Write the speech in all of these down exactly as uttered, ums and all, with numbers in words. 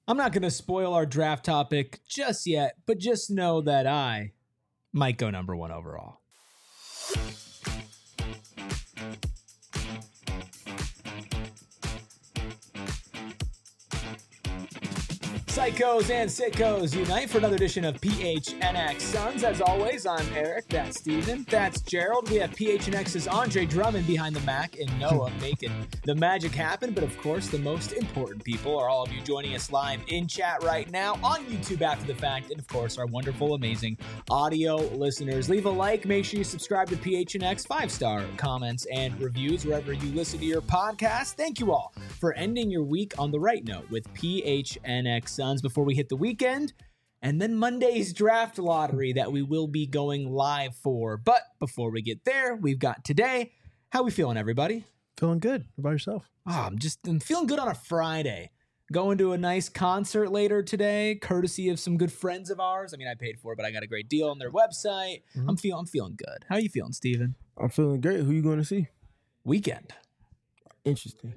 I'm not going to spoil our draft topic just yet, but just know that I might go number one overall. Psychos and sickos unite for another edition of P H N X Suns. As always, I'm Eric, that's Steven, that's Gerald. We have P H N X's Andre Drummond behind the Mac and Noah making the magic happen. But of course, the most important people are all of you joining us live in chat right now on YouTube after the fact. And of course, our wonderful, amazing audio listeners. Leave a like, make sure you subscribe to P H N X, five-star comments and reviews wherever you listen to your podcast. Thank you all for ending your week on the right note with P H N X Suns. Before we hit the weekend, and then Monday's draft lottery that we will be going live for. But before we get there, we've got today. How we feeling, everybody? Feeling good. How about yourself? Oh, I'm just I'm feeling good on a Friday. Going to a nice concert later today, courtesy of some good friends of ours. I mean, I paid for it, but I got a great deal on their website. Mm-hmm. I'm feeling I'm feeling good. How are you feeling, Steven? I'm feeling great. Who you going to see? Weekend. Interesting.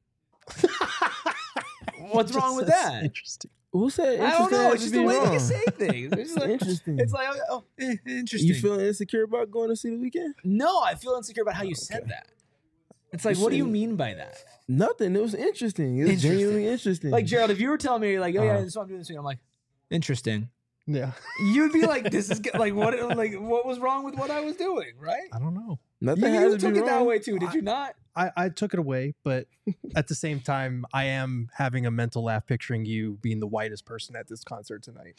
What's wrong with that? Interesting. Who said interesting? I don't know. It's just the way wrong? that you say things. It's like, interesting. It's like, oh, eh, interesting. You feeling insecure about going to see the weekend? No, I feel insecure about how you okay. said that. It's like, what do you mean by that? Nothing. It was interesting. It was interesting. Genuinely interesting. Like, Gerald, if you were telling me, like, oh, yeah, uh, this is what I'm doing this week, I'm like, interesting. Yeah. You'd be like, this is, like, what Like, what was wrong with what I was doing, right? I don't know. Nothing you has you to took be it wrong. that way, too, did you not? I, I took it away, but at the same time, I am having a mental laugh picturing you being the whitest person at this concert tonight.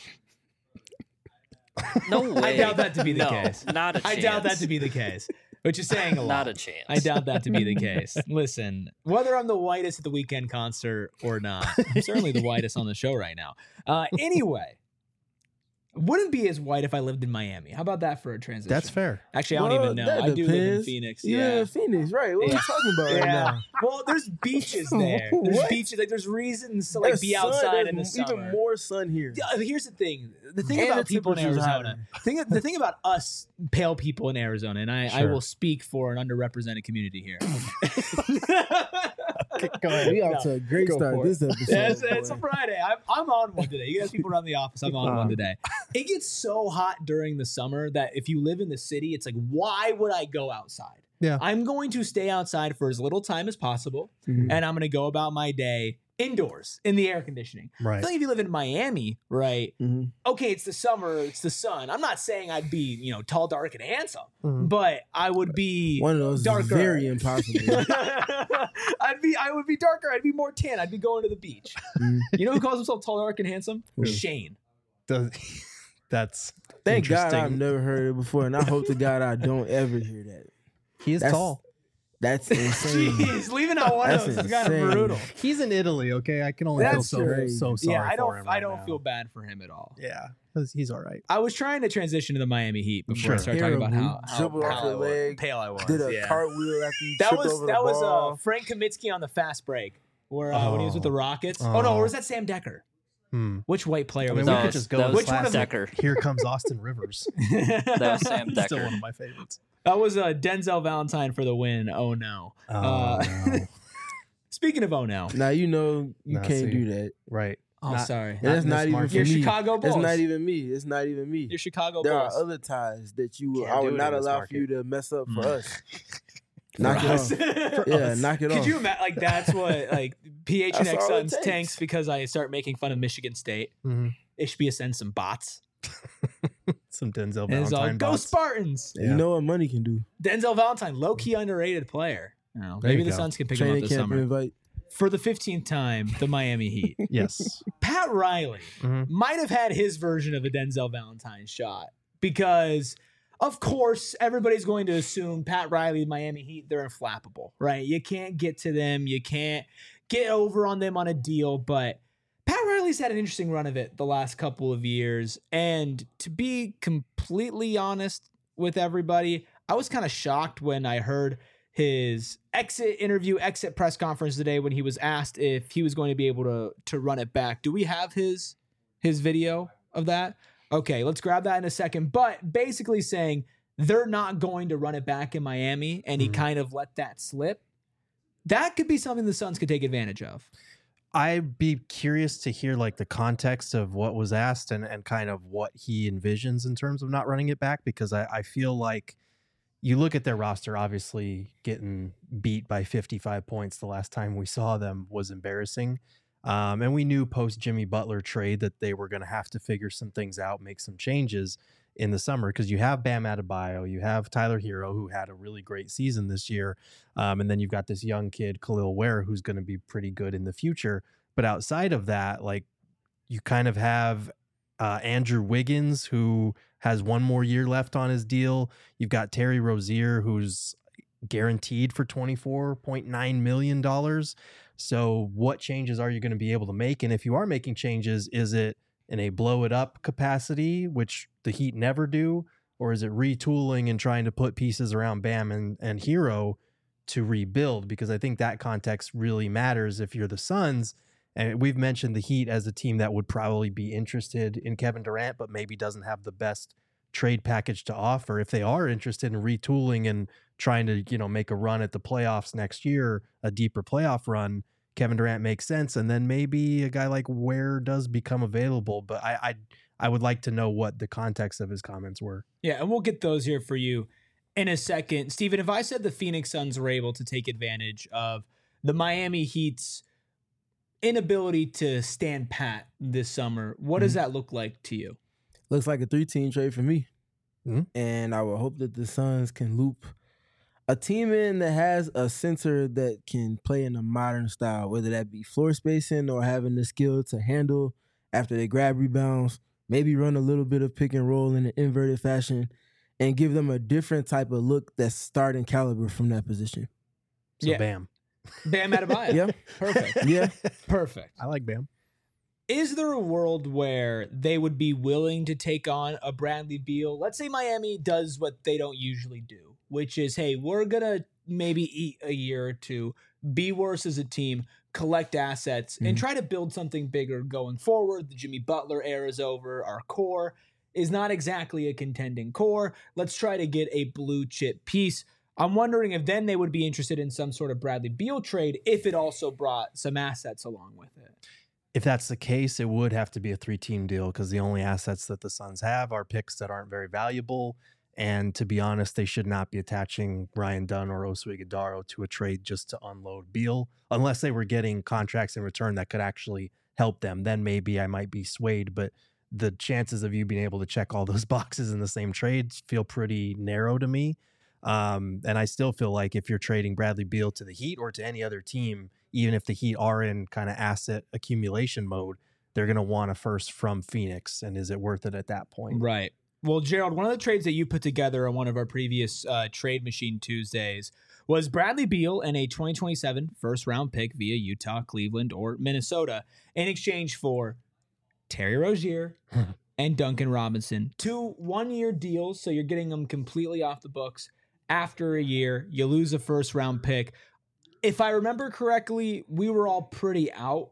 No way. I doubt that to be the no, case. Not a chance. I doubt that to be the case. Which is saying a lot. Not a chance. I doubt that to be the case. Listen, whether I'm the whitest at the weekend concert or not, I'm certainly the whitest on the show right now. Uh, anyway, wouldn't be as white if I lived in Miami. How about that for a transition? That's fair. Actually, I well, don't even know. I depends. do live in Phoenix. You yeah, live in Phoenix, right? What yeah. are you talking about yeah. right now? Well, there's beaches there. There's What? beaches. Like there's reasons to like There's be sun, outside in the there's summer. even more sun here. Yeah, Here's the thing. The thing And about the people in temperature's Arizona. Thing, the thing about us pale people in Arizona, and I, I Sure. will speak for an underrepresented community here. Go ahead. We out No. to a great Go start for this episode. Yeah, it's, it's a boy. Friday. I'm, I'm on one today. You guys people around the office, I'm on Um, one today. It gets so hot during the summer that if you live in the city, it's like, why would I go outside? Yeah. I'm going to stay outside for as little time as possible, Mhm. and I'm going to go about my day indoors in the air conditioning. I Right. feel like if you live in Miami, right? Mhm. Okay, it's the summer, it's the sun. I'm not saying I'd be, you know, tall, dark, and handsome, Mhm. but I would be One of those darker. is very impossible. I'd be, I would be darker. I'd be more tan. I'd be going to the beach. Mhm. You know who calls himself tall, dark, and handsome? Who? Shane. Does- That's Thank God interesting. I've never heard it before, and I hope to God I don't ever hear that. He is That's- tall. That's insane. Jeez, leaving out one That's of those is kind of insane. brutal. He's in Italy, okay? I can only That's feel so, crazy. so sorry Yeah, I for don't. him I right don't now. feel bad for him at all. Yeah, 'cause he's all right. I was trying to transition to the Miami Heat before Sure. I started talking about how, how Dribbled off pale, your I was, leg, pale I was. Did a yeah. cartwheel after you That tripped was over that the was ball. uh, Frank Kaminsky on the fast break, where uh, when he was with the Oh. Rockets. Oh, no, Oh. or was that Sam Decker? Hmm. Which white player I was mean, we that? could just go that with was Which one of them- Decker. Here comes Austin Rivers. That was Sam Still Decker. one of my favorites. That was uh, Denzel Valentine for the win. Oh no. Oh, Uh, no. Speaking of oh no. Now you know you Nah, can't see. do that. Right. Oh, Not- sorry. And that's in not this even market. for You're me. Chicago Bulls. It's not even me. It's not even me. You're Chicago There Bulls. are other ties that you will, Can't I do would it not in this allow market. for you to mess up for Mm. us. Knock it us. off. Yeah, knock it Could off. you imagine? Like that's what like P H N X That's all it Suns takes. tanks because I start making fun of Michigan State. Mhm. Ishbia sends some bots. Some Denzel And it's all Valentine go bots. Spartans. Yeah. You know what money can do. Denzel Valentine, low key underrated player. You know, There maybe you the go. Suns can pick him up Training this camp summer. invite. For the fifteenth time, the Miami Heat. Yes. Pat Riley Mhm. might have had his version of a Denzel Valentine shot because, of course, everybody's going to assume Pat Riley, Miami Heat, they're inflappable, right? You can't get to them. You can't get over on them on a deal. But Pat Riley's had an interesting run of it the last couple of years. And to be completely honest with everybody, I was kind of shocked when I heard his exit interview, exit press conference today when he was asked if he was going to be able to to run it back. Do we have his his video of that? Okay, let's grab that in a second. But basically saying they're not going to run it back in Miami, and he Mhm. kind of let that slip. That could be something the Suns could take advantage of. I'd be curious to hear like the context of what was asked and, and kind of what he envisions in terms of not running it back, because I, I feel like you look at their roster, obviously getting beat by fifty-five points the last time we saw them was embarrassing. Um, and we knew post Jimmy Butler trade that they were going to have to figure some things out, make some changes in the summer, because you have Bam Adebayo, you have Tyler Hero, who had a really great season this year. Um, and then you've got this young kid, Khalil Ware, who's going to be pretty good in the future. But outside of that, like you kind of have uh, Andrew Wiggins, who has one more year left on his deal. You've got Terry Rozier, who's guaranteed for twenty-four point nine million dollars. So what changes are you going to be able to make? And if you are making changes, is it in a blow it up capacity, which the Heat never do? Or is it retooling and trying to put pieces around Bam and, and Hero to rebuild? Because I think that context really matters if you're the Suns. And we've mentioned the Heat as a team that would probably be interested in Kevin Durant, but maybe doesn't have the best trade package to offer. If they are interested in retooling and trying to, you know, make a run at the playoffs next year, a deeper playoff run, Kevin Durant makes sense. And then maybe a guy like Ware does become available. But I, I, I would like to know what the context of his comments were. Yeah, and we'll get those here for you in a second. Steven, if I said the Phoenix Suns were able to take advantage of the Miami Heat's inability to stand pat this summer, what mm-hmm. does that look like to you? Looks like a three-team trade for me. Mm-hmm. And I would hope that the Suns can loop a team in that has a center that can play in a modern style, whether that be floor spacing or having the skill to handle after they grab rebounds, maybe run a little bit of pick and roll in an inverted fashion, and give them a different type of look that's starting caliber from that position. So yeah. Bam. Bam Adebayo. Yeah. Perfect. Yeah. Perfect. I like Bam. Is there a world where they would be willing to take on a Bradley Beal? Let's say Miami does what they don't usually do, which is, hey, we're going to maybe eat a year or two, be worse as a team, collect assets, mm-hmm. and try to build something bigger going forward. The Jimmy Butler era is over. Our core is not exactly a contending core. Let's try to get a blue chip piece. I'm wondering if then they would be interested in some sort of Bradley Beal trade if it also brought some assets along with it. If that's the case, it would have to be a three-team deal, because the only assets that the Suns have are picks that aren't very valuable. And to be honest, they should not be attaching Ryan Dunn or Oso Ighodaro to a trade just to unload Beal, unless they were getting contracts in return that could actually help them. Then maybe I might be swayed, but the chances of you being able to check all those boxes in the same trade feel pretty narrow to me. Um, and I still feel like if you're trading Bradley Beal to the Heat or to any other team, even if the Heat are in kind of asset accumulation mode, they're going to want a first from Phoenix. And is it worth it at that point? Right. Well, Gerald, one of the trades that you put together on one of our previous uh, Trade Machine Tuesdays was Bradley Beal and a twenty twenty-seven first round pick via Utah, Cleveland, or Minnesota in exchange for Terry Rozier and Duncan Robinson. Two one-year deals, so you're getting them completely off the books. After a year, you lose a first round pick. If I remember correctly, we were all pretty out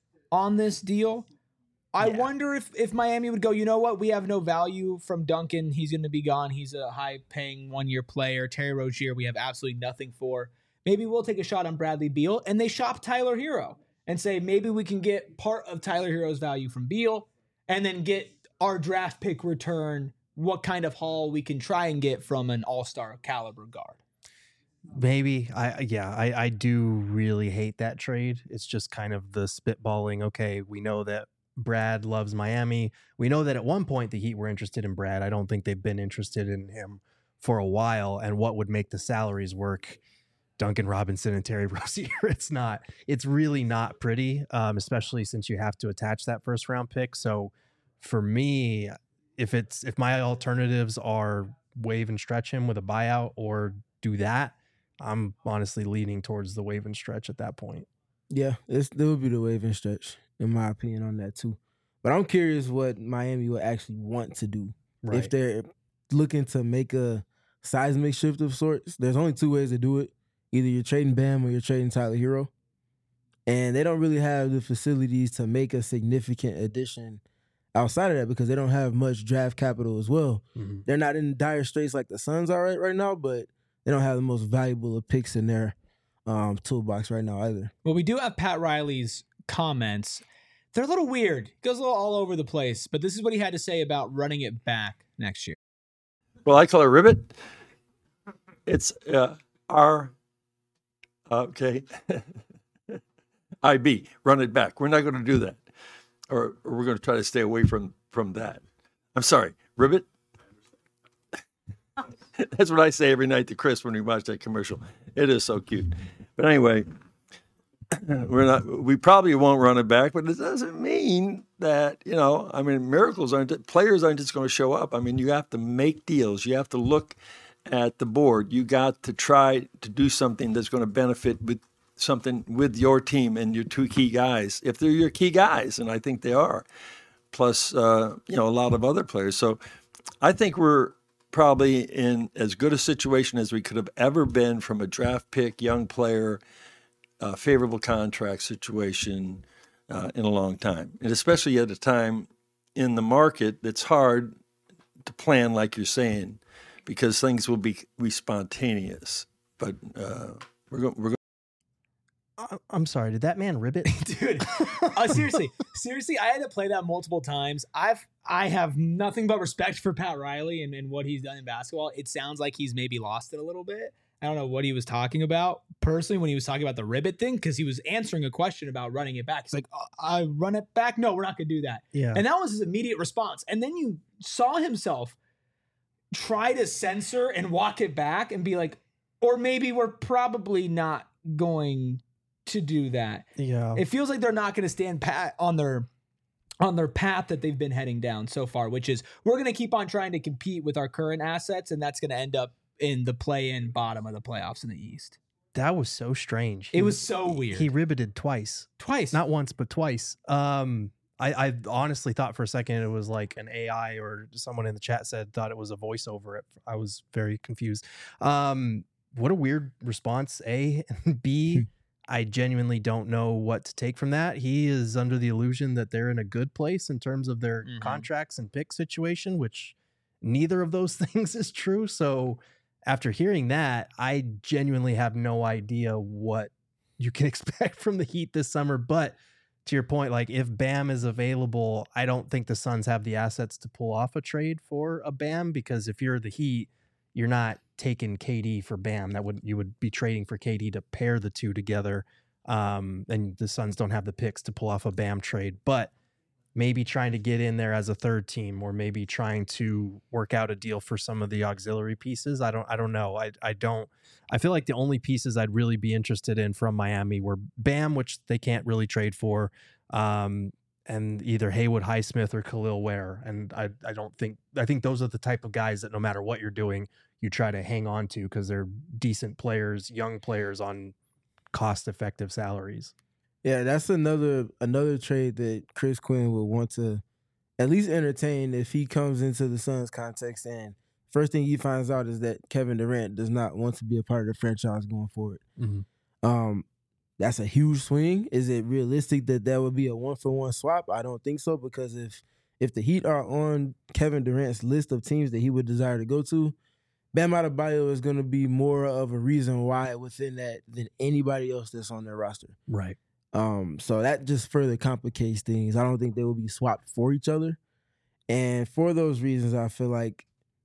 on this deal. I yeah. wonder if, if Miami would go, you know what? We have no value from Duncan. He's going to be gone. He's a high-paying one-year player. Terry Rozier, we have absolutely nothing for. Maybe we'll take a shot on Bradley Beal, and they shop Tyler Hero and say maybe we can get part of Tyler Hero's value from Beal and then get our draft pick return, what kind of haul we can try and get from an all-star caliber guard. Maybe. I yeah, I, I do really hate that trade. It's just kind of the spitballing. Okay, we know that Brad loves Miami. We know that at one point the Heat were interested in Brad. I don't think they've been interested in him for a while. And what would make the salaries work? Duncan Robinson and Terry Rozier. It's not. It's really not pretty, um, especially since you have to attach that first round pick. So for me, if it's if my alternatives are waive and stretch him with a buyout or do that, I'm honestly leaning towards the waive and stretch at that point. Yeah, it's, it would be the waive and stretch, in my opinion, on that too. But I'm curious what Miami would actually want to do. Right. If they're looking to make a seismic shift of sorts, there's only two ways to do it. Either you're trading Bam or you're trading Tyler Hero. And they don't really have the facilities to make a significant addition outside of that because they don't have much draft capital as well. Mm-hmm. They're not in dire straits like the Suns are right, right now, but they don't have the most valuable of picks in their um, toolbox right now either. Well, we do have Pat Riley's comments. They're a little weird. Goes a little all over the place. But this is what he had to say about running it back next year. Well, I call it ribbit. It's uh, R, okay, I B, run it back. We're not going to do that. Or, or we're going to try to stay away from, from that. I'm sorry, ribbit? That's what I say every night to Chris when we watch that commercial. It is so cute. But anyway, we're not. We probably won't run it back, but it doesn't mean that, you know, I mean, miracles aren't, players aren't just going to show up. I mean, you have to make deals. You have to look at the board. You got to try to do something that's going to benefit with something with your team and your two key guys, if they're your key guys, and I think they are, plus, uh, you know, a lot of other players. So I think we're probably in as good a situation as we could have ever been from a draft pick, young player, uh, favorable contract situation uh, in a long time. And especially at a time in the market that's hard to plan, like you're saying, because things will be, be spontaneous. But uh, we're going we're going I'm sorry, did that man ribbit? Dude, uh, seriously, seriously, I had to play that multiple times. I've, I have nothing but respect for Pat Riley and, and what he's done in basketball. It sounds like he's maybe lost it a little bit. I don't know what he was talking about personally when he was talking about the ribbit thing, because he was answering a question about running it back. He's like, oh, I run it back? No, we're not going to do that. Yeah. And that was his immediate response. And then you saw himself try to censor and walk it back and be like, or maybe we're probably not going to do that. Yeah. It feels like they're not going to stand pat on their on their path that they've been heading down so far, which is we're going to keep on trying to compete with our current assets, and that's going to end up in the play-in bottom of the playoffs in the East. That was so strange. It He- was so weird. He ribbited twice. Twice. Not once, but twice. Um, I, I honestly thought for a second it was like an A I, or someone in the chat said thought it was a voiceover. I was very confused. Um, what a weird response, A. And B, I genuinely don't know what to take from that. He is under the illusion that they're in a good place in terms of their Mhm. contracts and pick situation, which neither of those things is true. So after hearing that, I genuinely have no idea what you can expect from the Heat this summer. But to your point, like if Bam is available, I don't think the Suns have the assets to pull off a trade for a Bam, because if you're the Heat, you're not taking K D for Bam. That would you would be trading for K D to pair the two together. Um, and the Suns don't have the picks to pull off a Bam trade, but maybe trying to get in there as a third team, or maybe trying to work out a deal for some of the auxiliary pieces. I don't, I don't know. I, I don't, I feel like the only pieces I'd really be interested in from Miami were Bam, which they can't really trade for, um, and either Haywood Highsmith or Khalil Ware. And I, I don't think, I think those are the type of guys that no matter what you're doing, you try to hang on to because they're decent players, young players on cost-effective salaries. Yeah, that's another another trade that Chris Quinn would want to at least entertain if he comes into the Suns context. And first thing he finds out is that Kevin Durant does not want to be a part of the franchise going forward. Mm-hmm. Um, that's a huge swing. Is it realistic that that would be a one-for-one swap? I don't think so, because if if the Heat are on Kevin Durant's list of teams that he would desire to go to, Bam Adebayo is going to be more of a reason why within that than anybody else that's on their roster. Right. Um, so that just further complicates things. I don't think they will be swapped for each other. And for those reasons, I feel like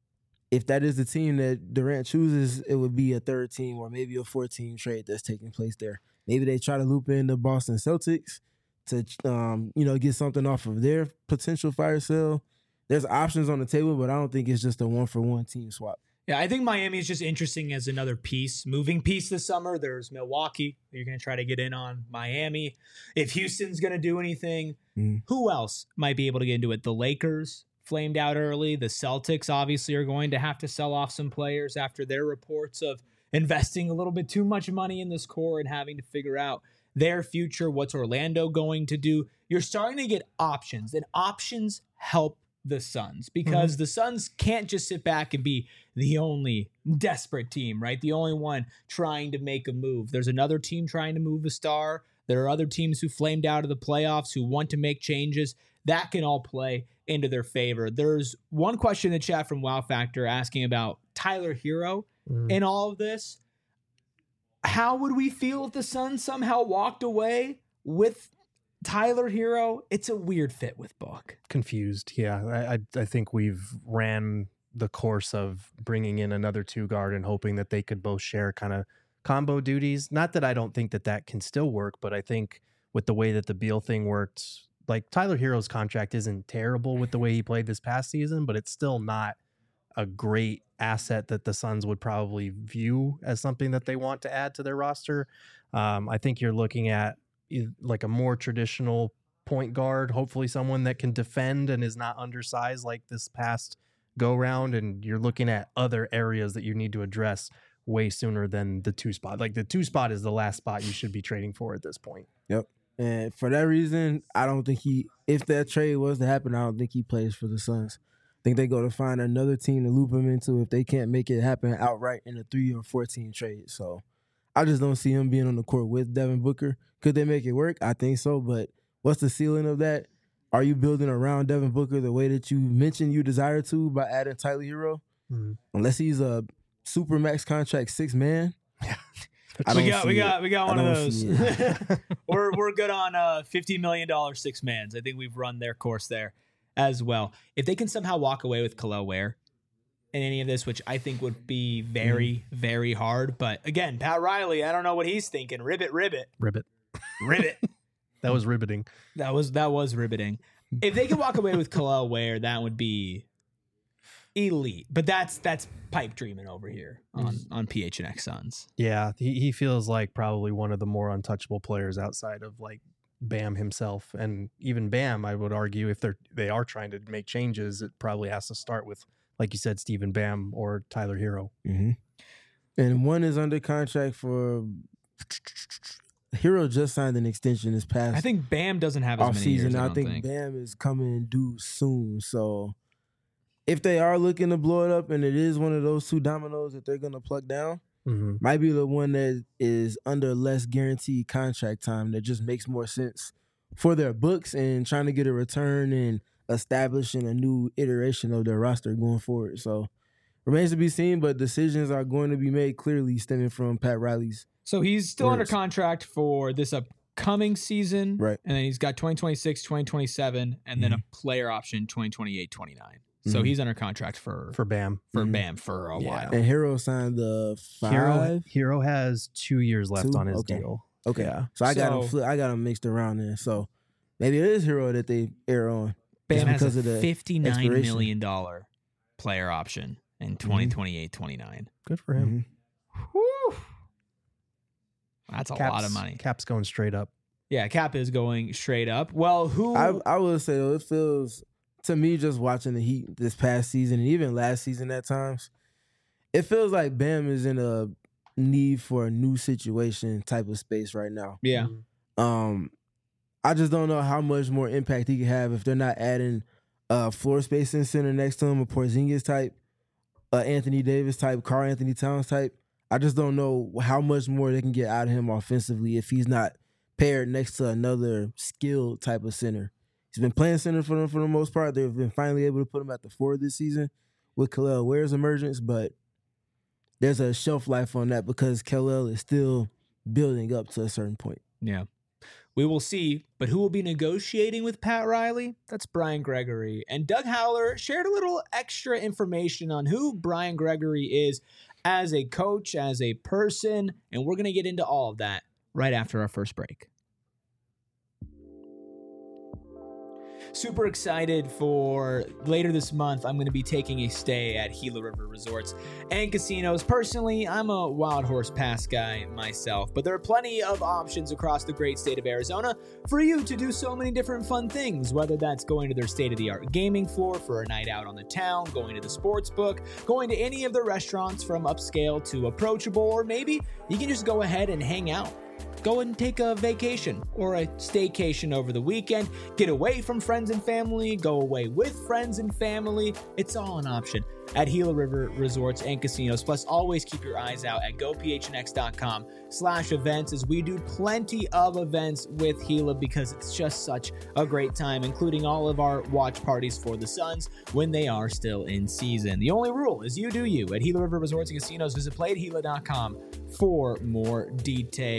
if that is the team that Durant chooses, it would be a third team or maybe a fourth-team trade that's taking place there. Maybe they try to loop in the Boston Celtics to, um, you know, get something off of their potential fire sale. There's options on the table, but I don't think it's just a one-for-one team swap. Yeah, I think Miami is just interesting as another piece, moving piece this summer. There's Milwaukee. You're going to try to get in on Miami. If Houston's going to do anything, Mm. who else might be able to get into it? The Lakers flamed out early. The Celtics obviously are going to have to sell off some players after their reports of investing a little bit too much money in this core and having to figure out their future. What's Orlando going to do? You're starting to get options, and options help the Suns, because mm-hmm. the Suns can't just sit back and be the only desperate team, right? The only one trying to make a move. There's another team trying to move a star. There are other teams who flamed out of the playoffs who want to make changes. That can all play into their favor. There's one question in the chat from Wow Factor asking about Tyler Hero mm. in all of this. How would we feel if the Suns somehow walked away with Tyler Hero, it's a weird fit with Book. Confused. Yeah. I, I, I think we've ran the course of bringing in another two guard and hoping that they could both share kind of combo duties. Not that I don't think that that can still work, but I think with the way that the Beal thing worked, like Tyler Hero's contract isn't terrible with the way he played this past season, but it's still not a great asset that the Suns would probably view as something that they want to add to their roster. Um, I think you're looking at like a more traditional point guard, hopefully someone that can defend and is not undersized like this past go round. And you're looking at other areas that you need to address way sooner than the two spot. Like the two spot is the last spot you should be trading for at this point. Yep. And for that reason, I don't think he, if that trade was to happen, I don't think he plays for the Suns. I think they go to find another team to loop him into if they can't make it happen outright in a three or four team trade. So I just don't see him being on the court with Devin Booker. Could they make it work? I think so. But what's the ceiling of that? Are you building around Devin Booker the way that you mentioned you desire to by adding Tyler Hero? Mm-hmm. Unless he's a super max contract six man. Yeah. We got, we got, we got one of those. we're we're good on uh, fifty million dollars six mans. I think we've run their course there as well. If they can somehow walk away with Kel'el Ware in any of this, which I think would be very, mm. very hard. But again, Pat Riley, I don't know what he's thinking. Ribbit, ribbit, ribbit, ribbit. That was riveting. That was that was riveting. If they could walk away with Kel'el Ware, that would be elite. But that's that's pipe dreaming over here on, on P H N X Suns. Yeah, he, he feels like probably one of the more untouchable players outside of like Bam himself. And even Bam, I would argue, if they're they are trying to make changes, it probably has to start with, like you said, Steven Bam or Tyler Hero. Mm-hmm. And one is under contract for Hero just signed an extension this past. I think Bam doesn't have as many season. years. I, I think, think Bam is coming due soon. So if they are looking to blow it up, and it is one of those two dominoes that they're going to pluck down, mm-hmm. might be the one that is under less guaranteed contract time that just makes more sense for their books and trying to get a return and establishing a new iteration of their roster going forward. So remains to be seen, but decisions are going to be made clearly stemming from Pat Riley's. So he's still words. under contract for this upcoming season. Right. And then he's got twenty twenty-six, twenty twenty-seven, and mm-hmm. then a player option twenty twenty-eight, twenty-nine. So mm-hmm. he's under contract for for Bam for mm-hmm. Bam for a yeah. while. And Hero signed the five. Hero, Hero has two years left two? on his okay. deal. Okay, yeah. so I got so, him. Fli- I got him mixed around there. So maybe it is Hero that they air on. Bam has a of the fifty-nine million dollars player option in twenty twenty-eight, twenty-nine. Good for him. Mm-hmm. Whew. That's a Cap's, lot of money. Cap's going straight up. Yeah, Cap is going straight up. Well, who I, I would say though, it feels to me just watching the Heat this past season and even last season at times, it feels like Bam is in a need for a new situation type of space right now. Yeah. Um, I just don't know how much more impact he can have if they're not adding a floor spacing center next to him, a Porzingis type, uh, Anthony Davis type, Karl Anthony Towns type. I just don't know how much more they can get out of him offensively if he's not paired next to another skilled type of center. He's been playing center for them for the most part. They've been finally able to put him at the four this season with Kel'el Ware's emergence, but there's a shelf life on that because Kel'el is still building up to a certain point. Yeah. We will see, but who will be negotiating with Pat Riley? That's Brian Gregory. And Doug Howler shared a little extra information on who Brian Gregory is as a coach, as a person, and we're going to get into all of that right after our first break. Super excited for later this month. I'm going to be taking a stay at Gila River Resorts and Casinos. Personally, I'm a Wild Horse Pass guy myself, but there are plenty of options across the great state of Arizona for you to do so many different fun things, whether that's going to their state-of-the-art gaming floor for a night out on the town, going to the sports book, going to any of the restaurants from upscale to approachable, or maybe you can just go ahead and hang out. Go and take a vacation or a staycation over the weekend. Get away from friends and family. Go away with friends and family. It's all an option at Gila River Resorts and Casinos. Plus, always keep your eyes out at gophnx.com slash events as we do plenty of events with Gila because it's just such a great time, including all of our watch parties for the Suns when they are still in season. The only rule is you do you at Gila River Resorts and Casinos. Visit play at gila dot com for more details.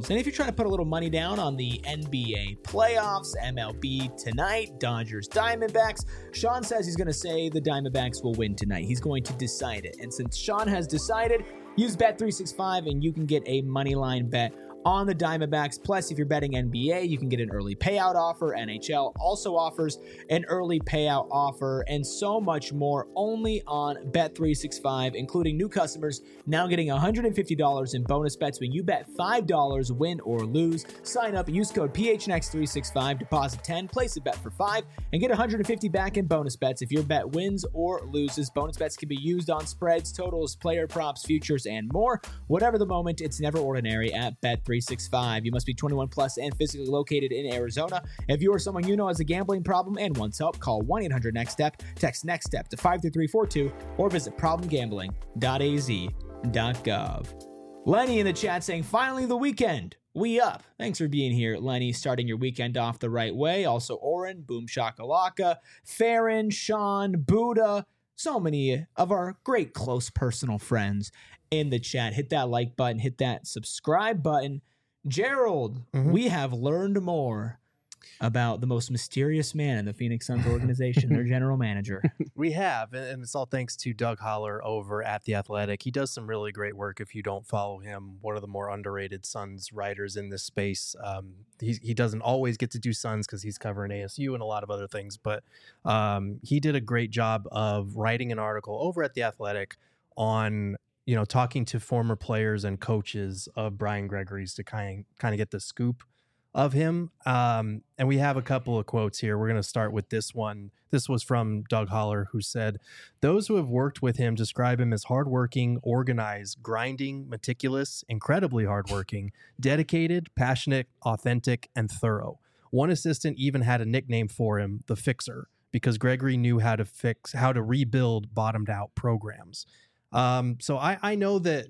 games. And if you're trying to put a little money down on the N B A playoffs, M L B tonight, Dodgers, Diamondbacks, Sean says he's going to say the Diamondbacks will win tonight. He's going to decide it. And since Sean has decided, use Bet three sixty-five and you can get a money line bet on the Diamondbacks. Plus, if you're betting N B A, you can get an early payout offer. N H L also offers an early payout offer and so much more only on Bet three sixty-five, including new customers now getting one hundred fifty dollars in bonus bets when you bet five dollars, win or lose. Sign up, use code P H N X three sixty-five, deposit ten, place a bet for five, and get one hundred fifty back in bonus bets if your bet wins or loses. Bonus bets can be used on spreads, totals, player props, futures, and more. Whatever the moment, it's never ordinary at Bet three sixty-five. You must be twenty-one plus and physically located in Arizona. If you or someone you know has a gambling problem and wants help, call one eight hundred next step, text NEXTSTEP to five three three four two, or visit problem gambling dot a z dot gov. Lenny in the chat saying, finally the weekend. We up. Thanks for being here, Lenny. Starting your weekend off the right way. Also, Oren, Boom Shakalaka, Farron, Sean, Buddha, so many of our great close personal friends in the chat. Hit that like button, hit that subscribe button. Gerald, mm-hmm. we have learned more about the most mysterious man in the Phoenix Suns organization, their general manager. We have, and it's all thanks to Doug Holler over at The Athletic. He does some really great work. If you don't follow him, one of the more underrated Suns writers in this space. Um, he, he doesn't always get to do Suns because he's covering A S U and a lot of other things, but um, he did a great job of writing an article over at The Athletic on, you know, talking to former players and coaches of Brian Gregory's to kind of, kind of get the scoop of him. Um, and we have a couple of quotes here. We're going to start with this one. This was from Doug Holler, who said, "Those who have worked with him describe him as hardworking, organized, grinding, meticulous, incredibly hardworking, dedicated, passionate, authentic, and thorough. One assistant even had a nickname for him, the Fixer, because Gregory knew how to fix, how to rebuild bottomed out programs." Um, so I, I know that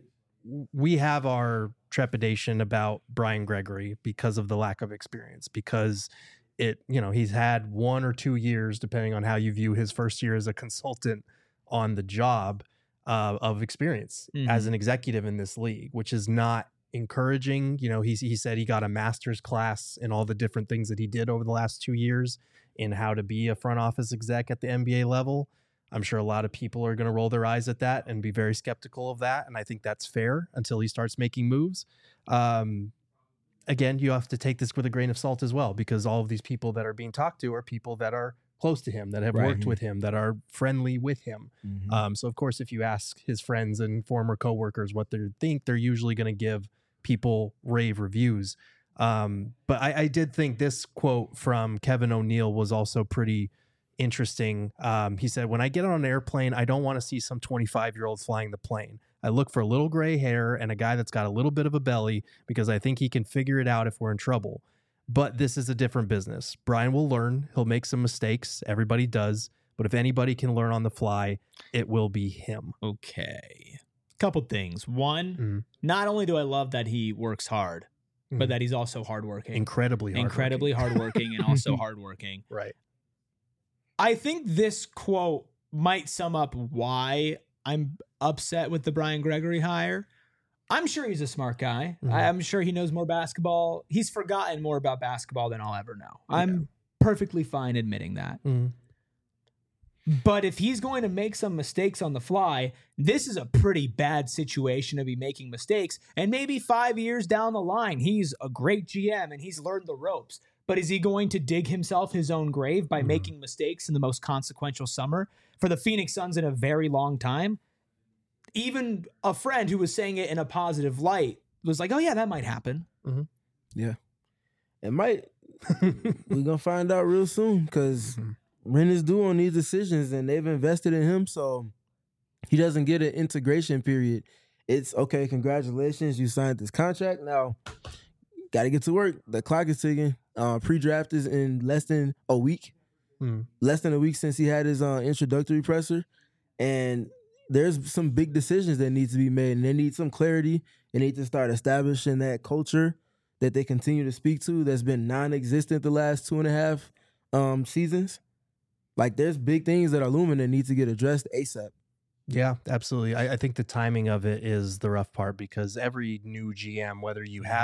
we have our trepidation about Brian Gregory because of the lack of experience, because it, you know, he's had one or two years, depending on how you view his first year as a consultant on the job, uh, of experience mm-hmm. as an executive in this league, which is not encouraging. You know, he, he said he got a master's class in all the different things that he did over the last two years in how to be a front office exec at the N B A level. I'm sure a lot of people are going to roll their eyes at that and be very skeptical of that. And I think that's fair until he starts making moves. Um, again, you have to take this with a grain of salt as well, because all of these people that are being talked to are people that are close to him, that have right. worked with him, that are friendly with him. Mm-hmm. Um, so, of course, if you ask his friends and former coworkers what they think, they're usually going to give people rave reviews. Um, but I, I did think this quote from Kevin O'Neill was also pretty interesting. Um, he said, "When I get on an airplane, I don't want to see some twenty-five-year-old flying the plane. I look for a little gray hair and a guy that's got a little bit of a belly because I think he can figure it out if we're in trouble. But this is a different business. Brian will learn. He'll make some mistakes. Everybody does. But if anybody can learn on the fly, it will be him." Okay. Couple things. One, mm. not only do I love that he works hard, mm. but that he's also hardworking. Incredibly hardworking. Incredibly hardworking and also hardworking. Right. I think this quote might sum up why I'm upset with the Brian Gregory hire. I'm sure he's a smart guy. Mm-hmm. I'm sure he knows more basketball. He's forgotten more about basketball than I'll ever know. Yeah. I'm perfectly fine admitting that. Mm-hmm. But if he's going to make some mistakes on the fly, this is a pretty bad situation to be making mistakes. And maybe five years down the line, he's a great G M and he's learned the ropes. But is he going to dig himself his own grave by mm. making mistakes in the most consequential summer for the Phoenix Suns in a very long time? Even a friend who was saying it in a positive light was like, oh, yeah, that might happen. Mm-hmm. Yeah. It might. We're going to find out real soon because mm-hmm. rent is due on these decisions and they've invested in him. So he doesn't get an integration period. It's, okay, congratulations. You signed this contract. Now, got to get to work. The clock is ticking. Uh, pre-draft is in less than a week. Hmm. Less than a week since he had his uh, introductory presser. And there's some big decisions that need to be made. And they need some clarity. They need to start establishing that culture that they continue to speak to that's been non-existent the last two and a half um, seasons. Like, there's big things that are looming that need to get addressed ASAP. Yeah, absolutely. I, I think the timing of it is the rough part because every new G M, whether you have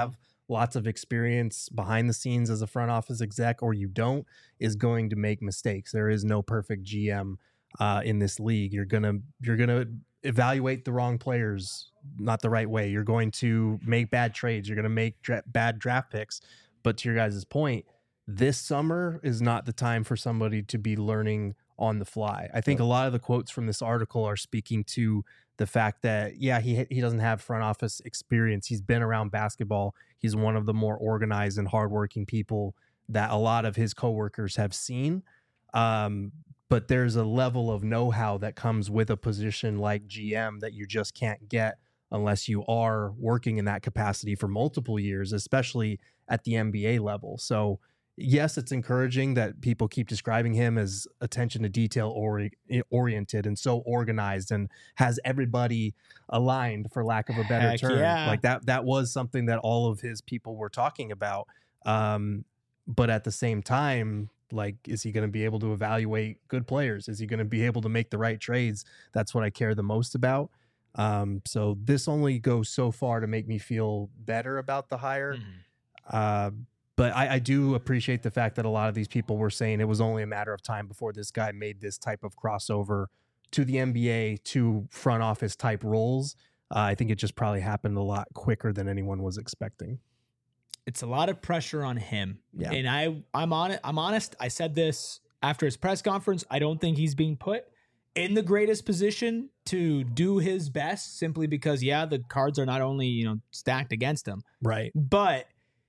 lots of experience behind the scenes as a front office exec, or you don't, is going to make mistakes. There is no perfect G M uh, in this league. You're gonna you're gonna evaluate the wrong players not the right way. You're going to make bad trades. You're going to make dra- bad draft picks. But to your guys' point, this summer is not the time for somebody to be learning on the fly. I think a lot of the quotes from this article are speaking to the fact that, yeah, he he doesn't have front office experience. He's been around basketball. He's one of the more organized and hardworking people that a lot of his coworkers have seen. Um, but there's a level of know-how that comes with a position like G M that you just can't get unless you are working in that capacity for multiple years, especially at the N B A level. So yes, it's encouraging that people keep describing him as attention to detail ori- oriented and so organized and has everybody aligned, for lack of a better Heck term. yeah. Like that, that was something that all of his people were talking about. Um, but at the same time, like, is he going to be able to evaluate good players? Is he going to be able to make the right trades? That's what I care the most about. Um, so this only goes so far to make me feel better about the hire. Mm. Uh, but I, I do appreciate the fact that a lot of these people were saying it was only a matter of time before this guy made this type of crossover to the N B A, to front office type roles. Uh, I think it just probably happened a lot quicker than anyone was expecting. It's a lot of pressure on him. Yeah. And I, I'm on it. I'm honest. I said this after his press conference. I don't think he's being put in the greatest position to do his best, simply because, yeah, the cards are not only, you know, stacked against him, Right. but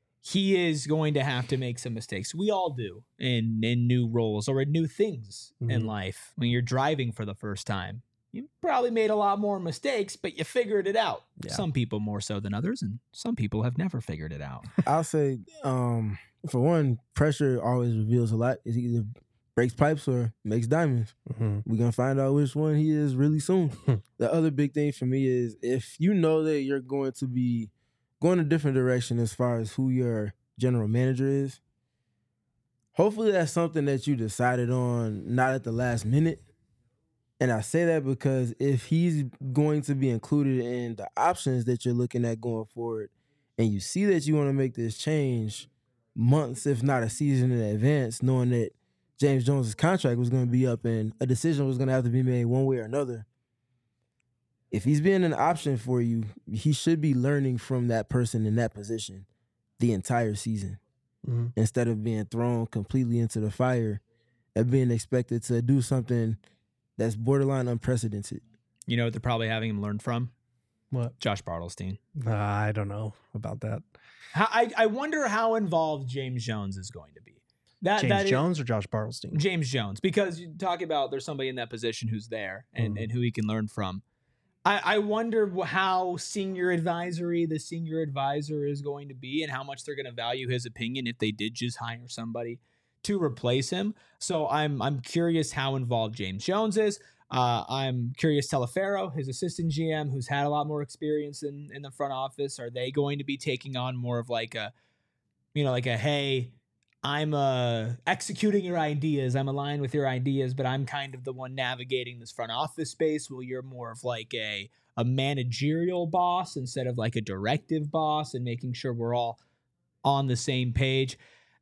he is going to have to make some mistakes. We all do in, in new roles or in new things Mhm. in life. When you're driving for the first time, you probably made a lot more mistakes, but you figured it out. Yeah. Some people more so than others, and some people have never figured it out. I'll say, um, for one, pressure always reveals a lot. It either breaks pipes or makes diamonds. Mm-hmm. We're going to find out which one he is really soon. The other big thing for me is if you know that you're going to be going a different direction as far as who your general manager is, hopefully that's something that you decided on not at the last minute. And I say that because if he's going to be included in the options that you're looking at going forward, and you see that you want to make this change months, if not a season in advance, knowing that James Jones' contract was going to be up and a decision was going to have to be made one way or another, if he's being an option for you, he should be learning from that person in that position the entire season, Mm-hmm. instead of being thrown completely into the fire and being expected to do something that's borderline unprecedented. You know what they're probably having him learn from? What? Josh Bartelstein. Uh, I don't know about that. How, I, I wonder how involved James Jones is going to be. That, James that is- Jones or Josh Bartelstein? James Jones, because you talk about there's somebody in that position who's there and, Mhm. and who he can learn from. I, I wonder how senior advisory the senior advisor is going to be and how much they're going to value his opinion if they did just hire somebody to replace him. So I'm I'm curious how involved James Jones is. Uh, I'm curious Telefero, his assistant G M, who's had a lot more experience in, in the front office. Are they going to be taking on more of like a, you know, like a, hey, I'm uh, executing your ideas. I'm aligned with your ideas, but I'm kind of the one navigating this front office space. Well, you're more of like a, a managerial boss instead of like a directive boss, and making sure we're all on the same page.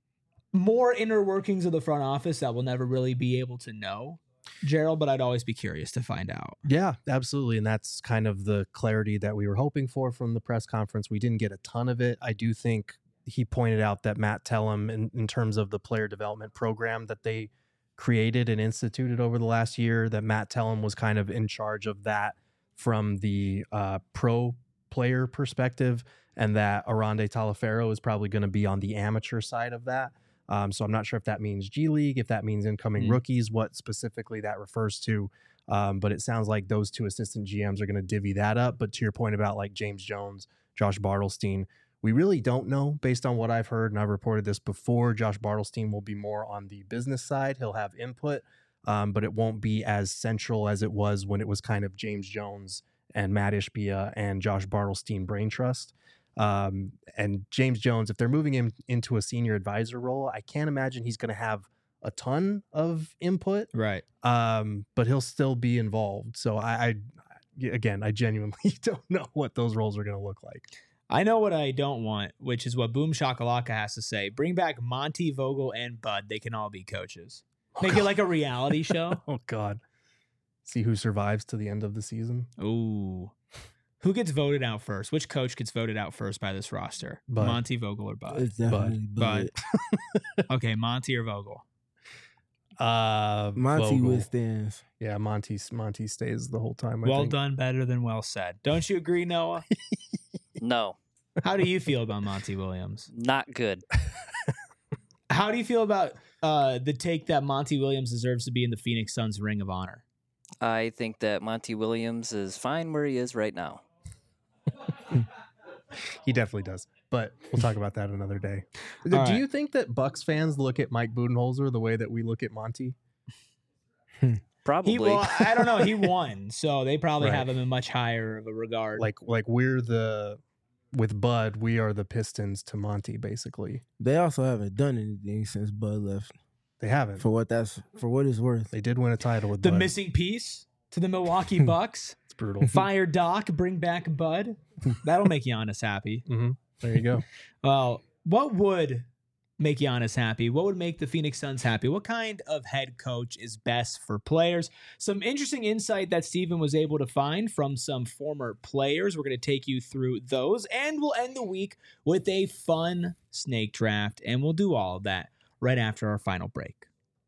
More inner workings of the front office that we'll never really be able to know, Gerald, but I'd always be curious to find out. Yeah, absolutely. And that's kind of the clarity that we were hoping for from the press conference. We didn't get a ton of it. I do think he pointed out that Matt Tellem, in, in terms of the player development program that they created and instituted over the last year, that Matt Tellem was kind of in charge of that from the uh, pro player perspective, and that Arande Talefero is probably going to be on the amateur side of that. Um, so I'm not sure if that means G League, if that means incoming Mm-hmm. rookies, what specifically that refers to. Um, but it sounds like those two assistant G Ms are going to divvy that up. But to your point about like James Jones, Josh Bartelstein, we really don't know based on what I've heard. And I've reported this before. Josh Bartelstein will be more on the business side. He'll have input, um, but it won't be as central as it was when it was kind of James Jones and Matt Ishbia and Josh Bartelstein brain trust. Um, and James Jones, if they're moving him into a senior advisor role, I can't imagine he's going to have a ton of input, Right. um, but he'll still be involved. So I, I, again, I genuinely don't know what those roles are going to look like. I know what I don't want, which is what Boom Shakalaka has to say. Bring back Monty, Vogel, and Bud. They can all be coaches. Make it like a reality show. Oh, God. See who survives to the end of the season. Ooh. Who gets voted out first? Which coach gets voted out first by this roster? Bud. Monty, Vogel, or Bud? It's definitely Bud. Bud. Okay, Monty or Vogel? Uh, Monty Vogel. withstands. Yeah, Monty, Monty stays the whole time. I Well think. done, better than well said. Don't you agree, Noah? No, How do you feel about Monty Williams? not good. How do you feel about uh, the take that Monty Williams deserves to be in the Phoenix Suns Ring of Honor? I think that Monty Williams is fine where he is right now. He definitely does. But we'll talk about that another day. Do All right. you think that Bucks fans look at Mike Budenholzer the way that we look at Monty? Probably. He, well, I don't know. He won, so they probably Right. have him in much higher of a regard. Like, like we're the with Bud, we are the Pistons to Monty, basically. They also haven't done anything since Bud left. They haven't. For what that's for what it's worth. They did win a title with the Bud. missing piece to the Milwaukee Bucks. It's brutal. Fire Doc, bring back Bud. That'll make Giannis happy. hmm There you go. Well, what would make Giannis happy? What would make the Phoenix Suns happy? What kind of head coach is best for players? Some interesting insight that Steven was able to find from some former players. We're going to take you through those, and we'll end the week with a fun snake draft, and we'll do all of that right after our final break.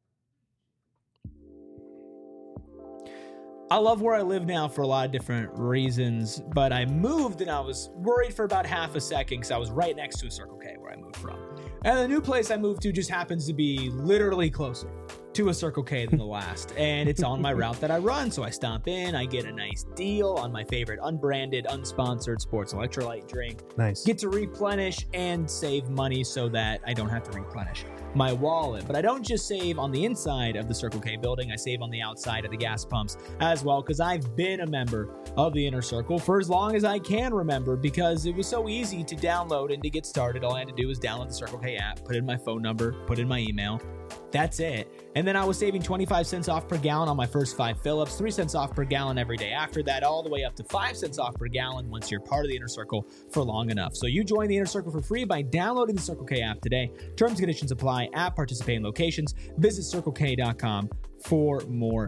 I love where I live now for a lot of different reasons, but I moved and I was worried for about half a second because I was right next to a Circle K where I moved from. And the new place I moved to just happens to be literally closer to a Circle K than the last. And it's on my route that I run. So I stop in, I get a nice deal on my favorite unbranded, unsponsored sports electrolyte drink. Nice. Get to replenish and save money so that I don't have to replenish my wallet. But I don't just save on the inside of the Circle K building, I save on the outside of the gas pumps as well, because I've been a member of the Inner Circle for as long as I can remember, because it was so easy to download and to get started. All I had to do was download the Circle K app, put in my phone number, put in my email. That's it. And then I was saving twenty-five cents off per gallon on my first five fill-ups, three cents off per gallon every day after that, all the way up to five cents off per gallon once you're part of the Inner Circle for long enough. So you join the Inner Circle for free by downloading the Circle K app today. Terms and conditions apply at participating locations. Visit circle k dot com for more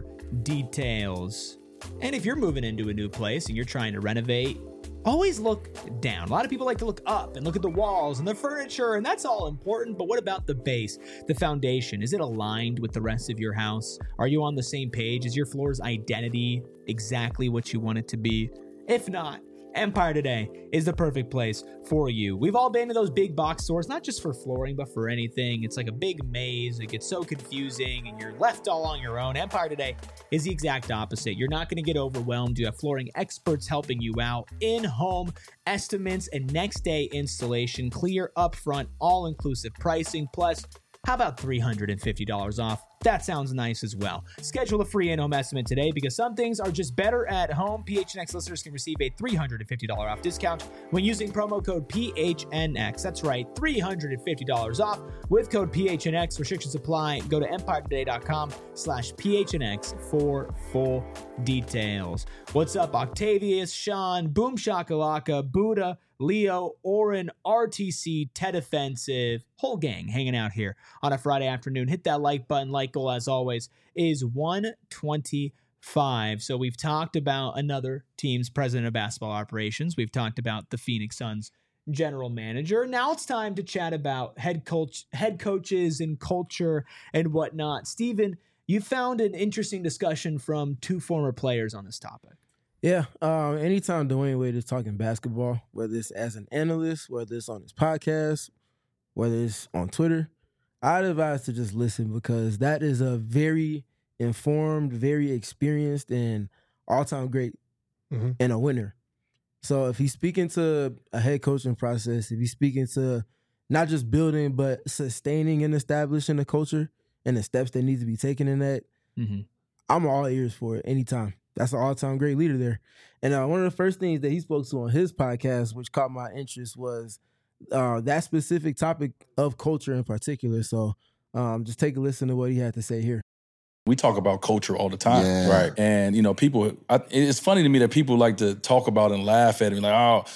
details. And if you're moving into a new place and you're trying to renovate, always look down. A lot of people like to look up and look at the walls and the furniture, and that's all important. But what about the base, the foundation? Is it aligned with the rest of your house? Are you on the same page? Is your floor's identity exactly what you want it to be? If not, Empire Today is the perfect place for you. We've all been to those big box stores, not just for flooring, but for anything. It's like a big maze. It gets so confusing and you're left all on your own. Empire Today is the exact opposite. You're not going to get overwhelmed. You have flooring experts helping you out, in-home estimates and next day installation, clear upfront, all-inclusive pricing, plus how about three hundred fifty dollars off? That sounds nice as well. Schedule a free in-home estimate today because some things are just better at home. P H N X listeners can receive a three hundred fifty dollars off discount when using promo code P H N X. That's right, three hundred fifty dollars off with code P H N X. Restrictions apply. Go to empire today dot com slash P H N X for full details. What's up, Octavius, Sean, Boom Shakalaka, Buddha, Leo, Oren, R T C, Ted Offensive, whole gang hanging out here on a Friday afternoon. Hit that like button. Like goal, as always, is one twenty-five. So we've talked about another team's president of basketball operations. We've talked about the Phoenix Suns general manager. Now it's time to chat about head coach, head coaches and culture and whatnot. Steven, you found an interesting discussion from two former players on this topic. Yeah, um, anytime Dwayne Wade is talking basketball, whether it's as an analyst, whether it's on his podcast, whether it's on Twitter, I'd advise to just listen because that is a very informed, very experienced, and all-time great mm-hmm. and a winner. So if he's speaking to a head coaching process, if he's speaking to not just building, but sustaining and establishing a culture and the steps that need to be taken in that, mm-hmm. I'm all ears for it anytime. That's an all-time great leader there. And uh, one of the first things that he spoke to on his podcast, which caught my interest, was uh, that specific topic of culture in particular. So um, just take a listen to what he had to say here. We talk about culture all the time, Yeah. right? And, you know, people, I, it's funny to me that people like to talk about and laugh at it, like, oh,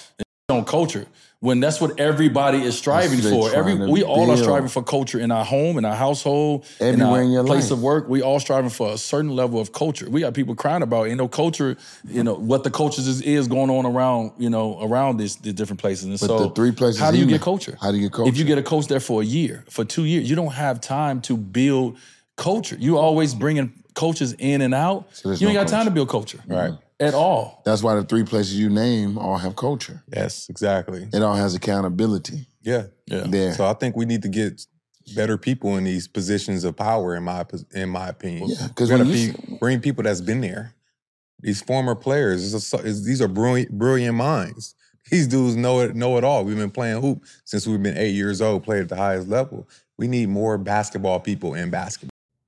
on culture when that's what everybody is striving for. Every we all are striving for culture in our home, in our household, everywhere in our in your place life. of work. We all striving for a certain level of culture. We got people crying about, you know, culture, you know, what the cultures is, is going on around, you know, around these, these different places. And but so the three places how do you he get went, culture? How do you get culture? If you get a coach there for a year, for two years, you don't have time to build culture. You always bringing coaches in and out. So you ain't no got time culture. to build culture. Right. At all. That's why the three places you name all have culture. Yes, exactly. It all has accountability. Yeah. Yeah. There. So I think we need to get better people in these positions of power, in my in my opinion. Yeah, 'cause we gotta when you be, bring people that's been there. These former players, it's a, it's, these are brilliant, brilliant minds. These dudes know it, know it all. We've been playing hoop since we've been eight years old, played at the highest level. We need more basketball people in basketball.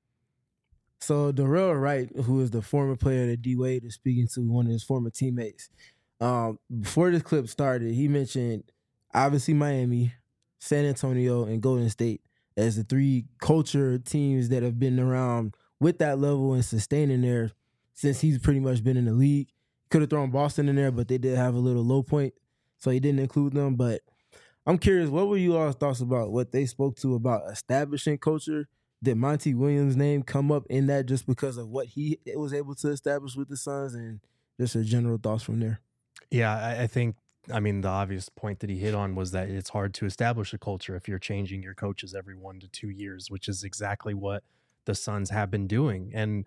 So Darrell Wright, who is the former player that D Wade is speaking to, one of his former teammates, um, before this clip started, he mentioned obviously Miami, San Antonio, and Golden State as the three culture teams that have been around with that level and sustaining there since he's pretty much been in the league. Could have thrown Boston in there, but they did have a little low point, so he didn't include them. But I'm curious, what were you all's thoughts about what they spoke to about establishing culture? Did Monty Williams' name come up in that just because of what he was able to establish with the Suns, and just your general thoughts from there? Yeah, I, I think, I mean, the obvious point that he hit on was that it's hard to establish a culture if you're changing your coaches every one to two years, which is exactly what the Suns have been doing. And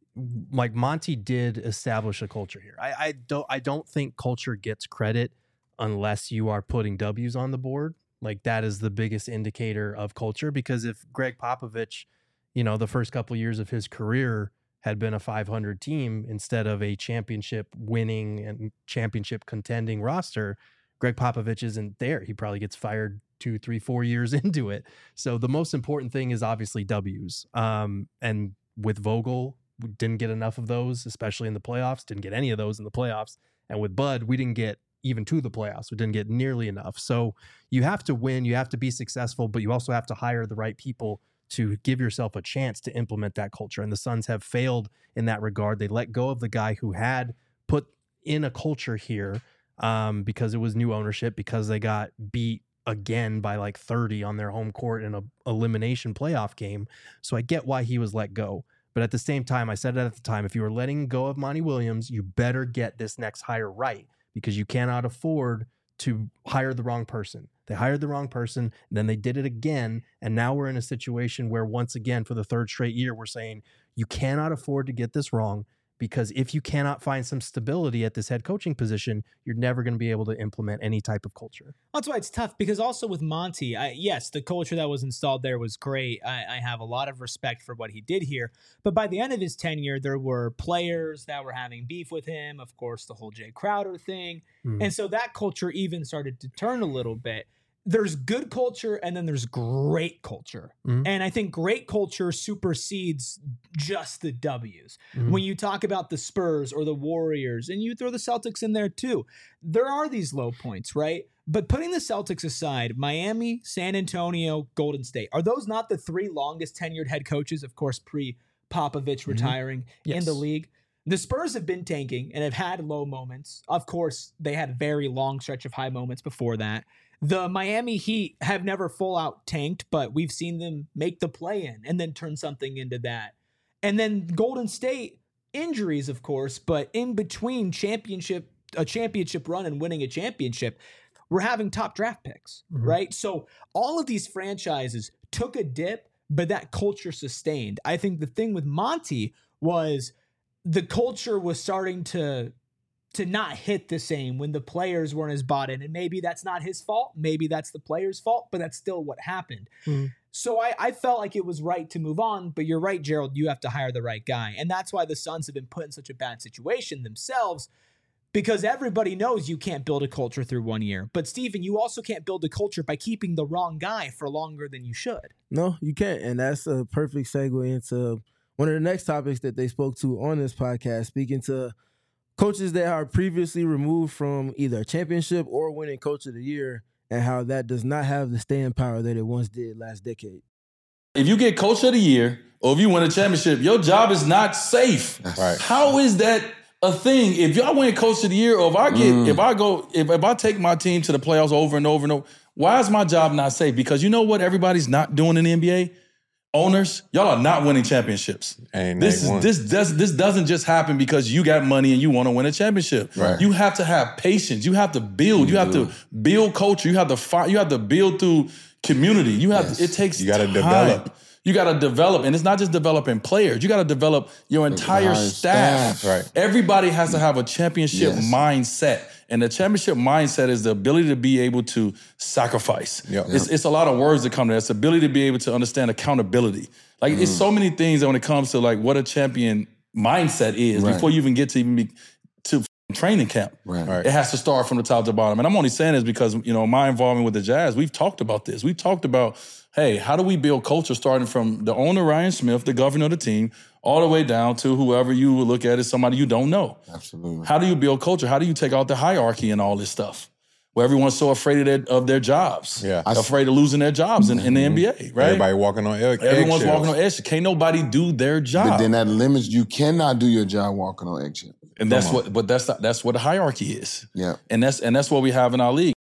like Monty did establish a culture here. I, I don't I don't think culture gets credit unless you are putting W's on the board. Like that is the biggest indicator of culture, because if Greg Popovich, you know, the first couple of years of his career had been a five hundred team instead of a championship winning and championship contending roster, Greg Popovich isn't there. He probably gets fired two, three, four years into it. So the most important thing is obviously W's. Um, and with Vogel, we didn't get enough of those, especially in the playoffs, didn't get any of those in the playoffs. And with Bud, we didn't get even to the playoffs. We didn't get nearly enough. So you have to win, you have to be successful, but you also have to hire the right people to give yourself a chance to implement that culture. And the Suns have failed in that regard. They let go of the guy who had put in a culture here um, because it was new ownership, because they got beat again by like thirty on their home court in a elimination playoff game. So I get why he was let go. But at the same time, I said it at the time, if you were letting go of Monty Williams, you better get this next hire right, because you cannot afford to hire the wrong person. They hired the wrong person, and then they did it again, and now we're in a situation where once again, for the third straight year, we're saying you cannot afford to get this wrong, because if you cannot find some stability at this head coaching position, you're never going to be able to implement any type of culture. That's why it's tough, because also with Monty, I, yes, the culture that was installed there was great. I, I have a lot of respect for what he did here. But by the end of his tenure, there were players that were having beef with him. Of course, the whole Jay Crowder thing. Mm. And so that culture even started to turn a little bit. There's good culture and then there's great culture. Mm-hmm. And I think great culture supersedes just the W's. Mm-hmm. When you talk about the Spurs or the Warriors, and you throw the Celtics in there too, there are these low points, right? But putting the Celtics aside, Miami, San Antonio, Golden State, are those not the three longest tenured head coaches, of course, pre-Popovich mm-hmm. retiring yes. in the league? The Spurs have been tanking and have had low moments. Of course, they had a very long stretch of high moments before that. The Miami Heat have never full out tanked, but we've seen them make the play in and then turn something into that. And then Golden State, injuries, of course, but in between championship, a championship run and winning a championship, we're having top draft picks, mm-hmm. right? So all of these franchises took a dip, but that culture sustained. I think the thing with Monty was the culture was starting to to not hit the same when the players weren't as bought in. And maybe that's not his fault. Maybe that's the players' fault, but that's still what happened. Mm-hmm. So I, I felt like it was right to move on, but you're right, Gerald, you have to hire the right guy. And that's why the Suns have been put in such a bad situation themselves, because everybody knows you can't build a culture through one year. But Stephen, you also can't build a culture by keeping the wrong guy for longer than you should. No, you can't. And that's a perfect segue into one of the next topics that they spoke to on this podcast, speaking to coaches that are previously removed from either a championship or winning coach of the year, and how that does not have the staying power that it once did last decade. If you get coach of the year or if you win a championship, your job is not safe. Right. How is that a thing. If y'all win Coach of the Year, or if I get, Mm. if I go, if, if I take my team to the playoffs over and over and over, why is my job not safe? Because you know what everybody's not doing in the N B A? Owners, y'all are not winning championships. Ain't This they is won. this does this doesn't just happen because you got money and you want to win a championship. Right. You have to have patience. You have to build. You, You have do. to build culture. You have to find. You have to build through community. You have. Yes. To, it takes. You gotta time. develop. You got to develop, and it's not just developing players. You got to develop your entire entire staff. staff. Right. Everybody has to have a championship Yes. mindset. And the championship mindset is the ability to be able to sacrifice. Yep. It's, it's a lot of words that come to that. It's the ability to be able to understand accountability. Like, it's so many things that when it comes to, like, what a champion mindset is Right. before you even get to even be to training camp. Right. Right. It has to start from the top to bottom. And I'm only saying this because, you know, my involvement with the Jazz, we've talked about this. We've talked about, hey, how do we build culture starting from the owner, Ryan Smith, the governor of the team, all the way down to whoever you would look at as somebody you don't know. Absolutely. How do you build culture? How do you take out the hierarchy and all this stuff? Where everyone's so afraid of their, of their jobs. Yeah. I s- afraid of losing their jobs in, in the N B A, right? Everybody walking on egg, Everyone's eggshells. walking on eggshells. Can't nobody do their job. But then that limits, you cannot do your job walking on eggshells. and that's Come on. what but that's that's what the hierarchy is. Yeah. And that's and that's what we have in our league.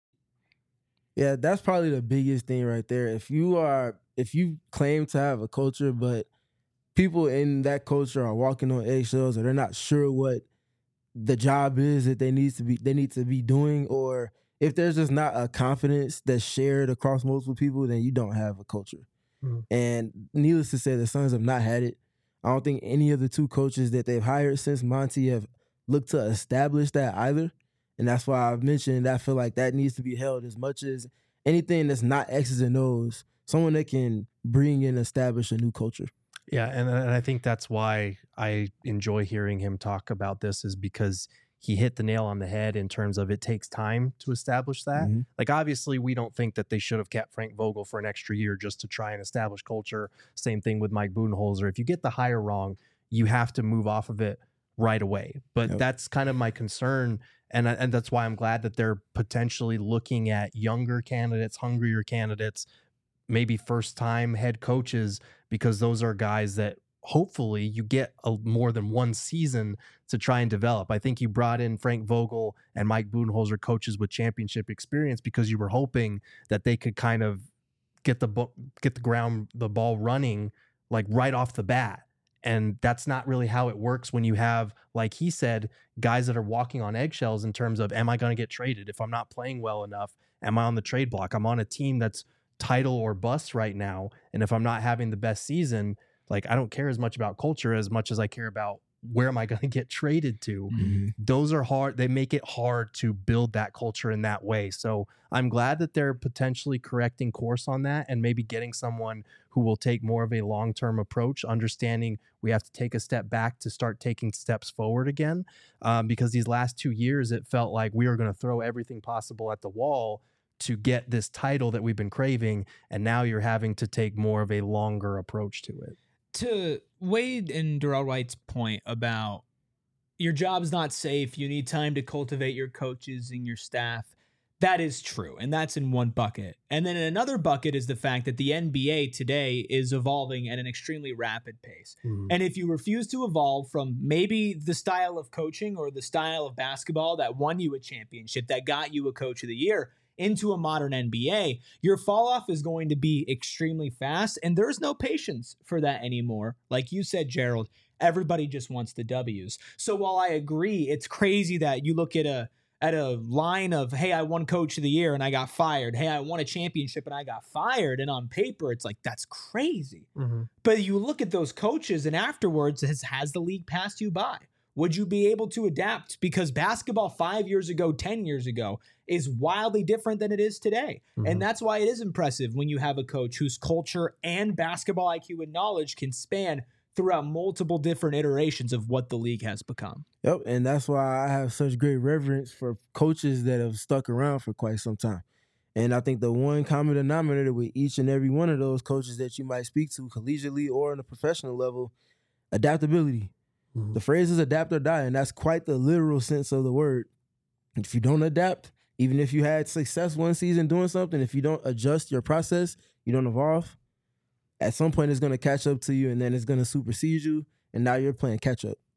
Yeah, that's probably the biggest thing right there. If you are, if you claim to have a culture, but people in that culture are walking on eggshells, or they're not sure what the job is that they need to be, they need to be doing, or if there's just not a confidence that's shared across multiple people, then you don't have a culture. Mhm. And needless to say, the Suns have not had it. I don't think any of the two coaches that they've hired since Monty have looked to establish that either. And that's why I've mentioned I feel like that needs to be held as much as anything that's not X's and O's. Someone that can bring and establish a new culture. Yeah, and, and I think that's why I enjoy hearing him talk about this, is because he hit the nail on the head in terms of it takes time to establish that. Mhm. Like, obviously, we don't think that they should have kept Frank Vogel for an extra year just to try and establish culture. Same thing with Mike Budenholzer. If you get the hire wrong, you have to move off of it right away. But Yep. that's kind of my concern. And, I- and that's why I'm glad that they're potentially looking at younger candidates, hungrier candidates, maybe first time head coaches, because those are guys that hopefully you get a, more than one season to try and develop. I think you brought in Frank Vogel and Mike Budenholzer, coaches with championship experience, because you were hoping that they could kind of get the bo- get the ground, the ball running like right off the bat. And that's not really how it works when you have, like he said, guys that are walking on eggshells in terms of, am I going to get traded? If I'm not playing well enough, am I on the trade block? I'm on a team that's title or bust right now. And if I'm not having the best season, like, I don't care as much about culture as much as I care about where am I going to get traded to. Mm-hmm. Those are hard. They make it hard to build that culture in that way. So I'm glad that they're potentially correcting course on that and maybe getting someone who will take more of a long-term approach, understanding we have to take a step back to start taking steps forward again. Um, because these last two years, it felt like we were going to throw everything possible at the wall to get this title that we've been craving. And now you're having to take more of a longer approach to it. To Wade and Darrell Wright's point about your job's not safe, you need time to cultivate your coaches and your staff, that is true. And that's in one bucket. And then in another bucket is the fact that the N B A today is evolving at an extremely rapid pace. Mhm. And if you refuse to evolve from maybe the style of coaching or the style of basketball that won you a championship, that got you a coach of the year, into a modern N B A, your fall off is going to be extremely fast, and there's no patience for that anymore. Like you said, Gerald, everybody just wants the W's. So while I agree, it's crazy that you look at a at a line of, hey, I won coach of the year and I got fired. Hey, I won a championship and I got fired. And on paper, it's like, that's crazy. Mm-hmm. But you look at those coaches and afterwards, has, has the league passed you by? Would you be able to adapt? Because basketball five years ago, ten years ago is wildly different than it is today. Mhm. And that's why it is impressive when you have a coach whose culture and basketball I Q and knowledge can span throughout multiple different iterations of what the league has become. Yep, and that's why I have such great reverence for coaches that have stuck around for quite some time. And I think the one common denominator with each and every one of those coaches that you might speak to collegiately or on a professional level, adaptability. Mhm. The phrase is adapt or die, and that's quite the literal sense of the word. If you don't adapt, even if you had success one season doing something, if you don't adjust your process, you don't evolve, at some point it's going to catch up to you, and then it's going to supersede you, and now you're playing catch up. Yep.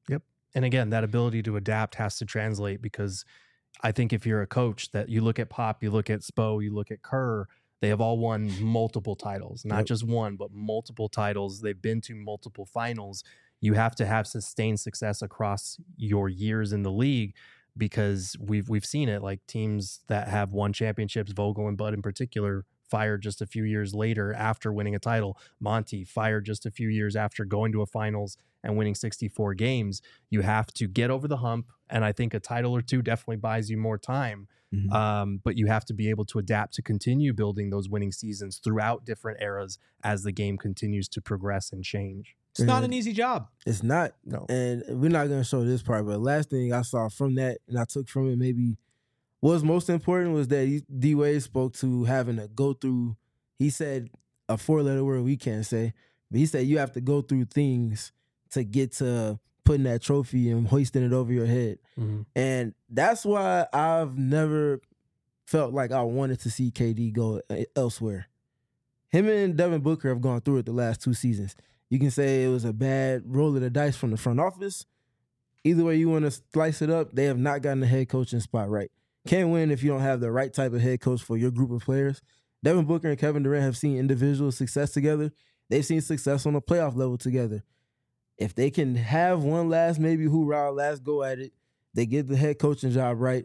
And again, that ability to adapt has to translate, because I think if you're a coach that you look at Pop, you look at Spo, you look at Kerr, they have all won multiple titles, not Yep. just one, but multiple titles. They've been to multiple finals. You have to have sustained success across your years in the league, because we've we've seen it. Like teams that have won championships, Vogel and Bud in particular, fired just a few years later after winning a title. Monty fired just a few years after going to a finals and winning sixty-four games. You have to get over the hump, and I think a title or two definitely buys you more time. Mhm. Um, but you have to be able to adapt to continue building those winning seasons throughout different eras as the game continues to progress and change. It's not an Yeah. easy job. It's not. No. And we're not going to show this part, but last thing I saw from that, and I took from it maybe what was most important, was that he- D Wade spoke to having to go through, he said a four-letter word we can't say, but he said you have to go through things to get to putting that trophy and hoisting it over your head. Mhm. And that's why I've never felt like I wanted to see K D go elsewhere. Him and Devin Booker have gone through it the last two seasons. You can say it was a bad roll of the dice from the front office. Either way you want to slice it up, they have not gotten the head coaching spot right. Can't win if you don't have the right type of head coach for your group of players. Devin Booker and Kevin Durant have seen individual success together. They've seen success on a playoff level together. If they can have one last maybe hoorah, last go at it, they get the head coaching job right,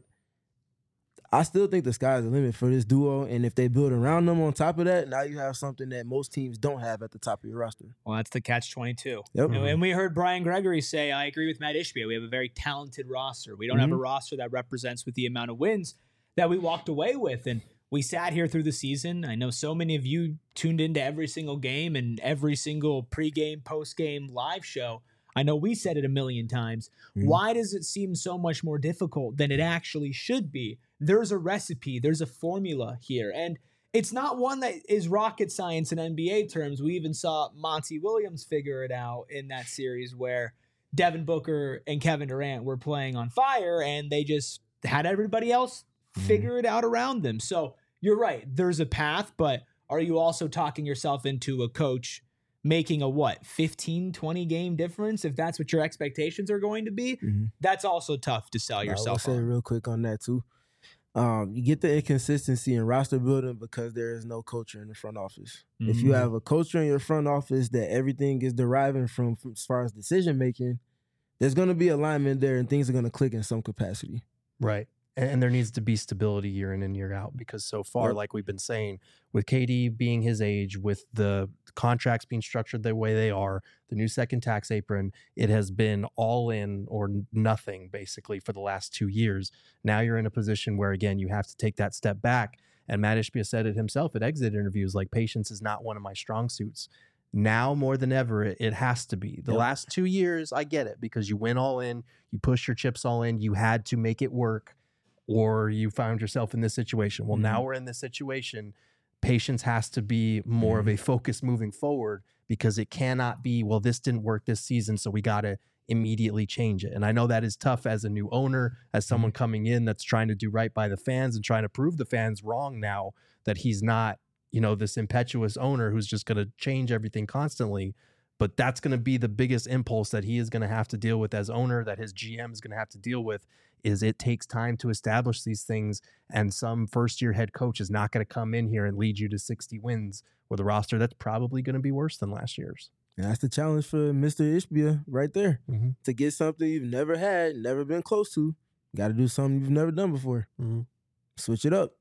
I still think the sky's the limit for this duo. And if they build around them on top of that, now you have something that most teams don't have at the top of your roster. Well, that's the catch twenty-two. Yep. You know, and we heard Brian Gregory say, I agree with Matt Ishbia. We have a very talented roster. We don't have a roster that represents with the amount of wins that we walked away with. And we sat here through the season. I know so many of you tuned into every single game and every single pregame, postgame live show. I know we said it a million times. Mhm. Why does it seem so much more difficult than it actually should be? There's a recipe. There's a formula here. And it's not one that is rocket science in N B A terms. We even saw Monty Williams figure it out in that series where Devin Booker and Kevin Durant were playing on fire and they just had everybody else figure it out around them. So you're right. There's a path, but are you also talking yourself into a coach making a what, fifteen, twenty game difference if that's what your expectations are going to be? Mhm. That's also tough to sell I will yourself say on. real quick on that too. Um, you get the inconsistency in roster building because there is no culture in the front office. If you Mhm. have a culture in your front office that everything is deriving from, from as far as decision making, there's going to be alignment there and things are going to click in some capacity. Right. And, and there needs to be stability year in and year out, because so far, Yep. like we've been saying, with K D being his age, with the contracts being structured the way they are, the new second tax apron, it has been all in or nothing basically for the last two years. Now you're in a position where, again, you have to take that step back. And Matt Ishbia said it himself at exit interviews, like, patience is not one of my strong suits. Now more than ever, it, it has to be. The Yep. last two years, I get it, because you went all in, you push your chips all in, you had to make it work, or you found yourself in this situation. Well, now we're in this situation. Patience has to be more of a focus moving forward, because it cannot be, well, this didn't work this season, so we got to immediately change it. And I know that is tough as a new owner, as someone coming in that's trying to do right by the fans and trying to prove the fans wrong now, that he's not, you know, this impetuous owner who's just going to change everything constantly. But that's going to be the biggest impulse that he is going to have to deal with as owner, that his G M is going to have to deal with, is it takes time to establish these things. And some first year head coach is not going to come in here and lead you to sixty wins with a roster that's probably going to be worse than last year's. And that's the challenge for Mister Ishbia right there. Mm-hmm. To get something you've never had, never been close to, got to do something you've never done before. Mm-hmm. Switch it up.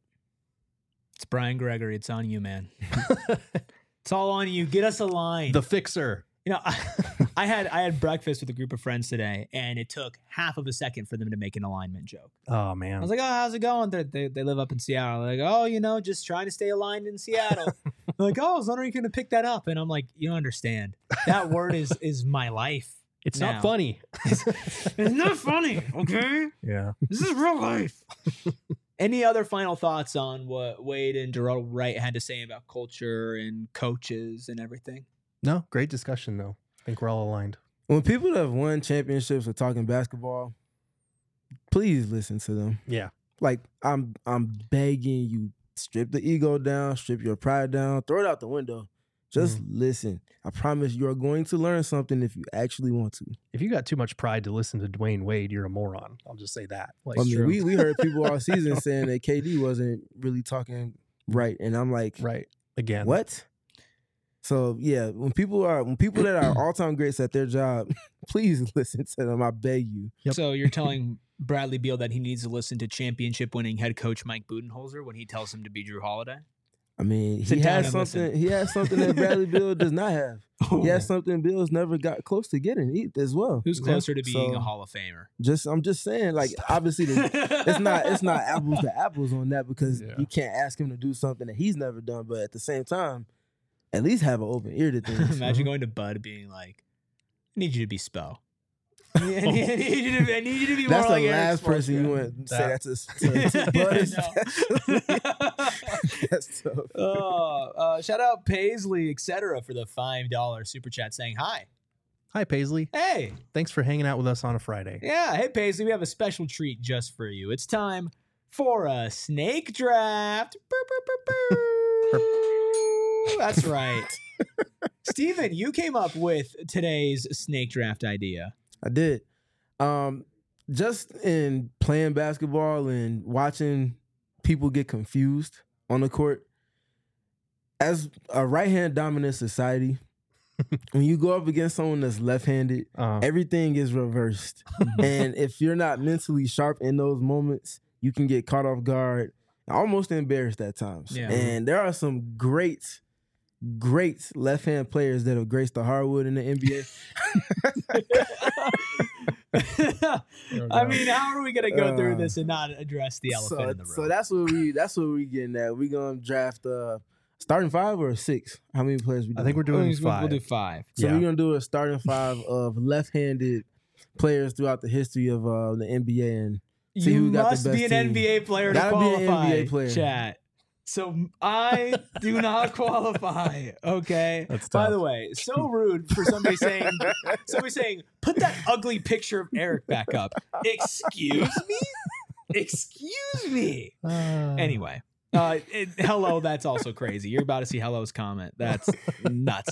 It's Brian Gregory. It's on you, man. It's all on you. Get us a line. The fixer. You know, I, I had I had breakfast with a group of friends today, and it took half of a second for them to make an alignment joke. Oh, man. I was like, "Oh, how's it going?" They're, they they live up in Seattle. They're like, "Oh, you know, just trying to stay aligned in Seattle." They're like, "Oh, I was wondering if you're gonna pick that up," and I'm like, "You don't understand. That word is is my life. It's now. not funny. It's not funny, okay? Yeah. This is real life." Any other final thoughts on what Wade and Gerald Wright had to say about culture and coaches and everything? No, great discussion, though. I think we're all aligned. When people that have won championships are talking basketball, please listen to them. Yeah. Like, I'm I'm begging you, strip the ego down, strip your pride down, throw it out the window. Just Mhm. listen. I promise you are going to learn something if you actually want to. If you got too much pride to listen to Dwayne Wade, you're a moron. I'll just say that. Like, I mean, true. we, we heard people all season saying that K D wasn't really talking right. And I'm like, right. Again. what? So yeah, when people are when people that are all time greats at their job, please listen to them. I beg you. Yep. So you're telling Bradley Beal that he needs to listen to championship winning head coach Mike Budenholzer when he tells him to be Drew Holiday? I mean, Sit he down has and something. listen. He has something that Bradley Beal does not have. Oh. He has something Bill's never got close to getting e- as well. Who's closer to being So, a Hall of Famer? Just I'm just saying, like obviously, the, it's not it's not apples to apples on that because Yeah. you can't ask him to do something that he's never done. But at the same time, at least have an open ear to things. Imagine going to Bud being like, I need you to be Spo. I need, I need you to, I need you to be That's more the like Eric last person you Spoelstra. went to say that to. to, to Bud. That's tough. Oh, uh, shout out Paisley, et cetera, for the five dollar super chat saying hi. Hi, Paisley. Hey, Thanks for hanging out with us on a Friday. yeah, hey Paisley, we have a special treat just for you. It's time for a snake draft. Boop, boop, boop, boop. That's right. Steven, you came up with today's snake draft idea. I did. Um, just in playing basketball and watching people get confused on the court, as a right-hand dominant society, when you go up against someone that's left-handed, Uh, everything is reversed. And if you're not mentally sharp in those moments, you can get caught off guard, almost embarrassed at times. Yeah. And there are some great, great left-hand players that have graced the hardwood in the N B A. I mean, how are we gonna go through Uh, this and not address the elephant so, in the room? so that's what we that's what we getting at. We gonna draft uh starting five or six? How many players we doing? I think we're doing We'll- five. We'll do five. so yeah. we're gonna do a starting five of left-handed players throughout the history of uh, the N B A and see you who got the must best be an team. N B A player to Gotta be an qualify. N B A player. Chat. So I do not qualify. Okay. That's By tough. the way, so rude for somebody saying somebody saying, put that ugly picture of Eric back up. Excuse me? Excuse me. Uh, Anyway. Uh, it, hello, that's also crazy. You're about to see Hello's comment. That's nuts.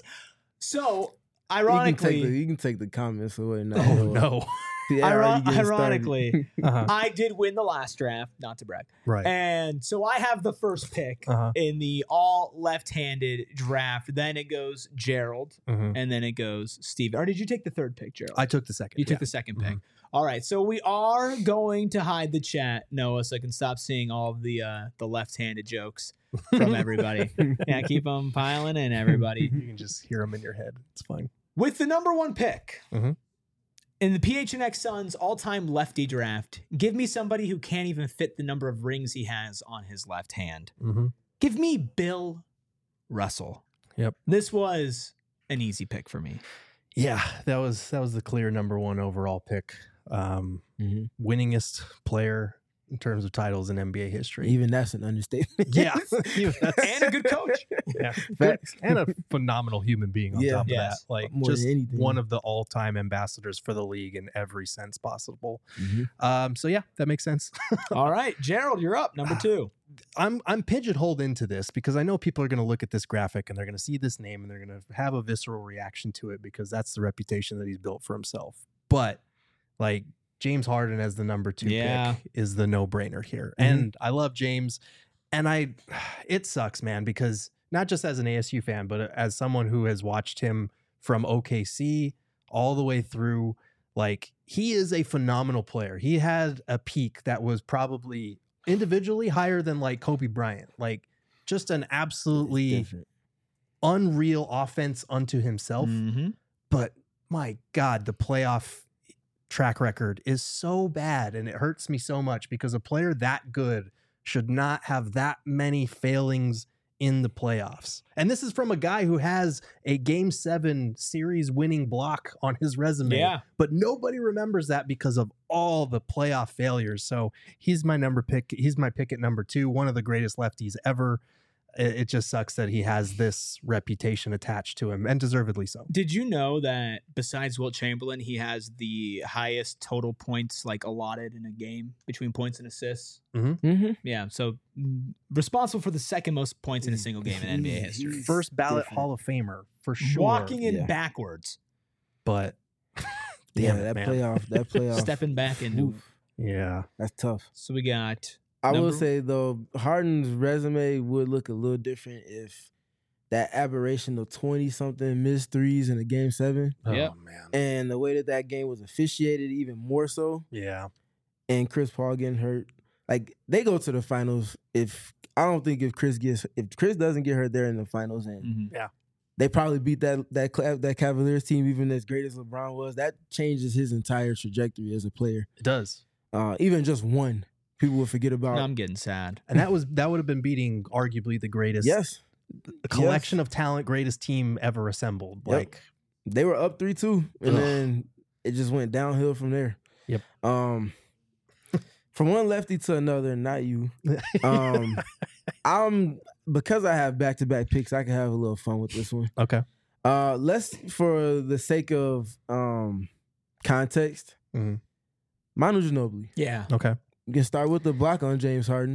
So, You can, take ironically, the, you can take the comments away now. Oh, no. Yeah, I already Iron- getting started. ironically, Uh-huh. I did win the last draft, not to brag. Right. And so I have the first pick Uh-huh. in the all left-handed draft. Then it goes Gerald, Mhm. and then it goes Steve. Or did you take the third pick, Gerald? I took the second. you took yeah. the second pick. Mhm. All right, so we are going to hide the chat, Noah, so I can stop seeing all of the uh, the left-handed jokes from everybody. Yeah, keep them piling in, everybody. You can just hear them in your head. It's fine. With the number one pick Mhm. in the P H N X Suns all-time lefty draft, give me somebody who can't even fit the number of rings he has on his left hand. Mm-hmm. Give me Bill Russell. Yep. This was an easy pick for me. Yeah, that was that was the clear number one overall pick. Um, Mhm. winningest player in terms of titles in N B A history. Even that's an understatement. yeah, Even that's- And a good coach. yeah, Facts. and a phenomenal human being on Yeah. top of Yes. that. Like More just than anything. one of the all-time ambassadors for the league in every sense possible. Mhm. Um, so yeah, that makes sense. All right, Gerald, you're up. Number two. I'm I'm pigeonholed into this because I know people are going to look at this graphic and they're going to see this name and they're going to have a visceral reaction to it because that's the reputation that he's built for himself. But like James Harden as the number two Yeah. pick is the no-brainer here. Mhm. And I love James, and I it sucks, man, because not just as an A S U fan, but as someone who has watched him from O K C all the way through, like he is a phenomenal player. He had a peak that was probably individually higher than like Kobe Bryant. Like just an It's absolutely different. unreal offense unto himself. Mm-hmm. But my God, the playoff track record is so bad and it hurts me so much because a player that good should not have that many failings in the playoffs. And this is from a guy who has a game seven series winning block on his resume. Yeah. But nobody remembers that because of all the playoff failures. So he's my number pick. He's my pick at number two, one of the greatest lefties ever. it, it just sucks that he has this reputation attached to him, and deservedly so. Did you know that besides Wilt Chamberlain, he has the highest total points like allotted in a game between points and assists? Mm-hmm. Mm-hmm. Yeah, so mm, responsible for the second most points in a single game in N B A history. First ballot different. Hall of Famer for sure. Walking in Yeah. backwards, but Yeah, damn it, that man. playoff, that playoff. stepping back into. Oof, Yeah. that's tough. So we got. I will Number- say though, Harden's resume would look a little different if that aberration of twenty something missed threes in a game seven, Yep. Oh man. and the way that that game was officiated, even more so, Yeah. and Chris Paul getting hurt. Like they go to the finals. If I don't think if Chris gets if Chris doesn't get hurt, they're in the finals, and Mhm. they probably beat that that Cla- that Cavaliers team, even as great as LeBron was. That changes his entire trajectory as a player. It does. Uh, even just one, people will forget about. Now I'm getting sad. And that was that would have been beating arguably the greatest yes, the collection of talent, greatest team ever assembled. Yep. Like they were up three two, and Ugh. then it just went downhill from there. Yep. Um, from one lefty to another, not you. Um, I'm because I have back to back picks. I can have a little fun with this one. okay. Uh, let's for the sake of um context, Mhm. Manu Ginobili. Yeah. Okay. You can start with the block on James Harden.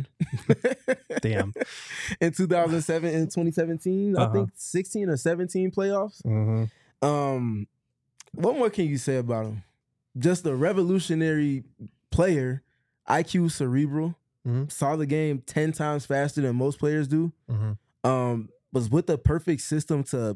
Damn. In two thousand seven and twenty seventeen, I Uh-huh. think sixteen or seventeen playoffs. Mm-hmm. Um, what more can you say about him? Just a revolutionary player, I Q cerebral, Mhm. saw the game ten times faster than most players do. Mm-hmm. Um, was with the perfect system to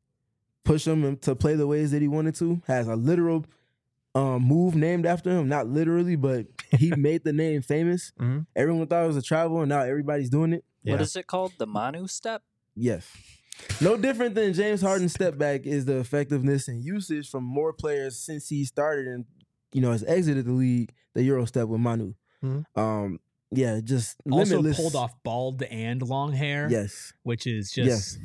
push him and to play the ways that he wanted to. Has a literal um, move named after him, not literally, but he made the name famous. Mhm. Everyone thought it was a travel, and now everybody's doing it. Yeah. What is it called? The Manu step? Yes. No different than James Harden's step back is the effectiveness and usage from more players since he started and, you know, has exited the league, the Euro step with Manu. Mhm. Um, yeah, just Also limitless. pulled off bald and long hair. Yes. Which is just. Yes.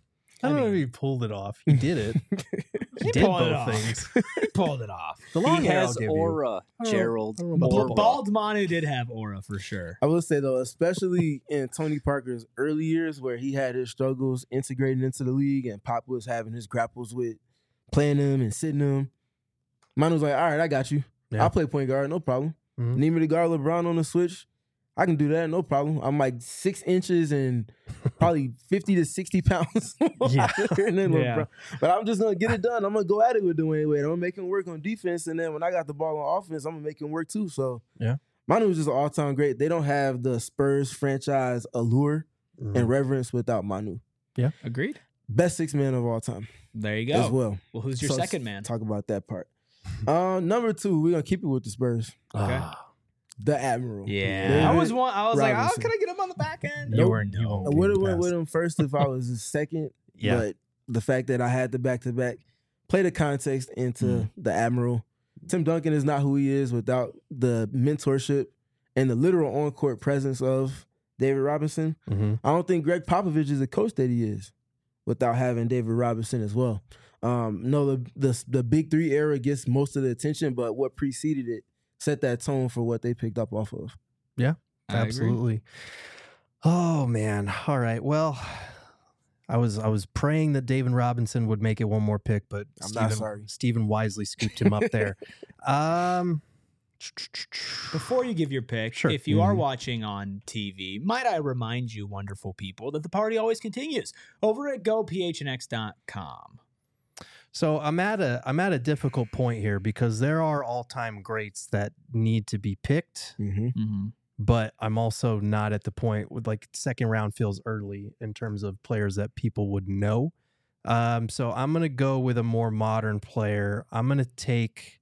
I don't I know mean- if he pulled it off. He did it. He, He did pulled it both off. things. He pulled it off. The long He hair I'll has give you. aura, I don't know- Gerald. I don't know about Ba- aura. Bald Manu did have aura for sure. I will say, though, especially in Tony Parker's early years where he had his struggles integrating into the league and Pop was having his grapples with playing him and sitting him, Manu was like, all right, I got you. Yeah. I'll play point guard, no problem. Mhm. Need me to guard LeBron on the switch? I can do that, no problem. I'm like six inches and probably fifty to sixty pounds. Yeah. And then Yeah. LeBron. But I'm just gonna get it done. I'm gonna go at it with Dwayne Wade. I'm gonna make him work on defense, and then when I got the ball on offense, I'm gonna make him work too. So Yeah. Manu was just an all-time great. They don't have the Spurs franchise allure Mhm. and reverence without Manu. Agreed. Best six man of all time There you as go. well. Well, who's your So second man? Talk about that part. Uh, number two, we're gonna keep it with the Spurs. Okay. Ah, The Admiral. Yeah. David I was one. I was like, oh, Robinson. can I get him on the back end? You Nope. weren't- you No. won't I get would have him went past. with him first if I was his second. Yeah. But the fact that I had the back to back, play the context into Mm. the Admiral. Tim Duncan is not who he is without the mentorship and the literal on court presence of David Robinson. Mhm. I don't think Greg Popovich is the coach that he is without having David Robinson as well. Um, no, the, the the Big Three era gets most of the attention, but what preceded it set that tone for what they picked up off of. I agree. Absolutely. Oh man. All right. Well, I was I was praying that David Robinson would make it one more pick, but I'm not Stephen, sorry. Stephen wisely scooped him up there. Um, Before you give your pick, Sure. if you are Mhm. watching on T V, might I remind you, wonderful people, that the party always continues over at go p h n x dot com. So I'm at a I'm at a difficult point here because there are all time greats that need to be picked, Mm-hmm. Mm-hmm. but I'm also not at the point with like second round feels early in terms of players that people would know. Um, so I'm gonna go with a more modern player. I'm gonna take.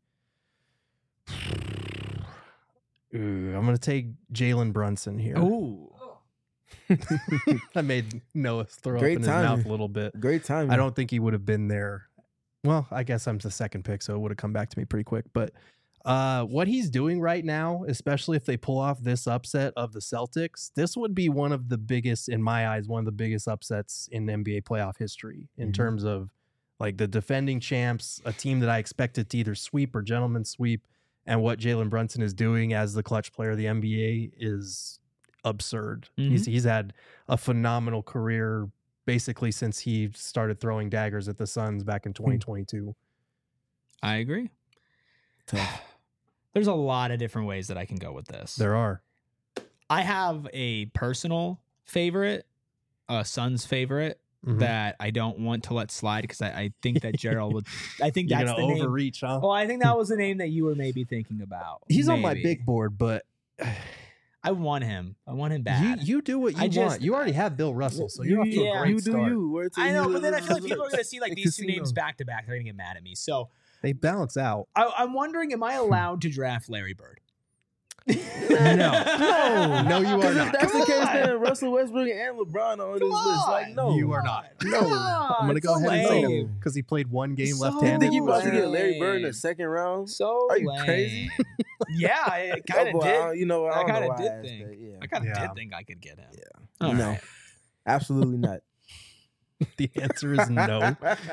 Ooh, I'm gonna take Jalen Brunson here. Ooh. I made Noah throw Great up in his timing. mouth a little bit. Great timing. I don't think he would have been there. Well, I guess I'm the second pick, so it would have come back to me pretty quick. But uh, what he's doing right now, especially if they pull off this upset of the Celtics, this would be one of the biggest, in my eyes, one of the biggest upsets in N B A playoff history in Mhm. terms of like the defending champs, a team that I expected to either sweep or gentleman sweep, and what Jalen Brunson is doing as the clutch player of the N B A is absurd. Mhm. He's he's had a phenomenal career basically since he started throwing daggers at the Suns back in twenty twenty-two. I agree. Tough. There's a lot of different ways that I can go with this. There are. I have a personal favorite, a Suns favorite Mhm. that I don't want to let slide because I, I think that Gerald would. I think You're that's gonna the name. overreach, huh? Well, I think that was the name that you were maybe thinking about. He's on my Maybe. big board, but I want him. I want him you, bad. you do what you I want. just- you already have Bill Russell, so you're off to Yeah. a great you do start. you. Word to I know, you. but then I feel like people are going to see like The these two casino. names back to back. They're going to get mad at me. So They balance out. I, I'm wondering, am I allowed to draft Larry Bird? No. No, No, you are Because not. if that's Come the case, on. then Russell Westbrook and LeBron are on this list. Like, no, You are not. No, Come on, I'm gonna go so ahead and say lame. because he played one game So you left-handed. think you about to lame. get Larry Bird in the second round? So Are you lame. crazy? Yeah, I kind Oh, of boy, I did. don't- You know, I, I don't know kinda why did asked think. that. Yeah. I kind of Yeah. did think I could get him. Yeah. All no, right. absolutely not. The answer is no.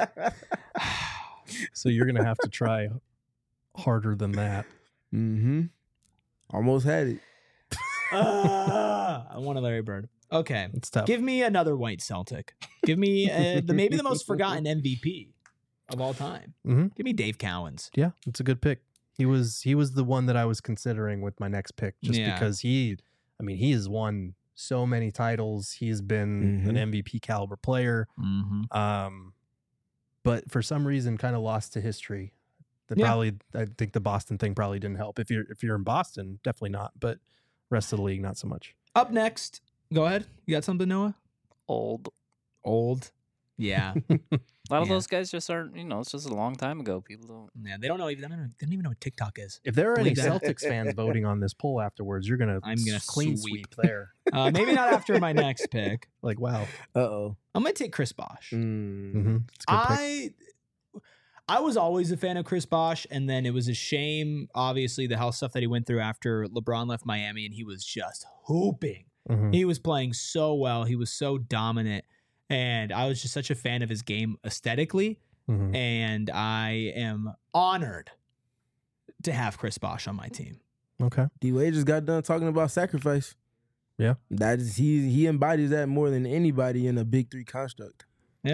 So you're gonna have to try harder than that. Mm-hmm. Almost had it. Ah, I want a Larry Bird. Okay. It's tough. Give me another white Celtic. Give me uh, the maybe the most forgotten M V P of all time. Mhm. Give me Dave Cowens. Yeah, it's a good pick. He was he was the one that I was considering with my next pick, just Yeah. because he, I mean, he has won so many titles. He's been Mhm. an M V P caliber player. Mm-hmm. Um, but for some reason, kind of lost to history. That Yeah. probably, I think the Boston thing probably didn't help. If you're if you're in Boston, definitely not. But rest of the league, not so much. Up next, go ahead. You got something, Noah? Old. Old. Yeah. A lot of Yeah. those guys just aren't, you know, it's just a long time ago. People don't. Yeah. They don't know even. They don't, know, they don't even know what TikTok is. If there are any Believe that. Celtics fans voting on this poll afterwards, you're gonna I'm gonna clean sweep. sweep there. Uh, maybe not after my next pick. Like wow, Uh oh. I'm gonna take Chris Bosh. Mm. mm-hmm. It's a good pick. I I was always a fan of Chris Bosh, and then it was a shame, obviously, the health stuff that he went through after LeBron left Miami, and he was just hooping. Mhm. He was playing so well. He was so dominant, and I was just such a fan of his game aesthetically, Mhm. and I am honored to have Chris Bosh on my team. Okay. D Wade just got done talking about sacrifice. Yeah. That is he he embodies that more than anybody in a big three construct.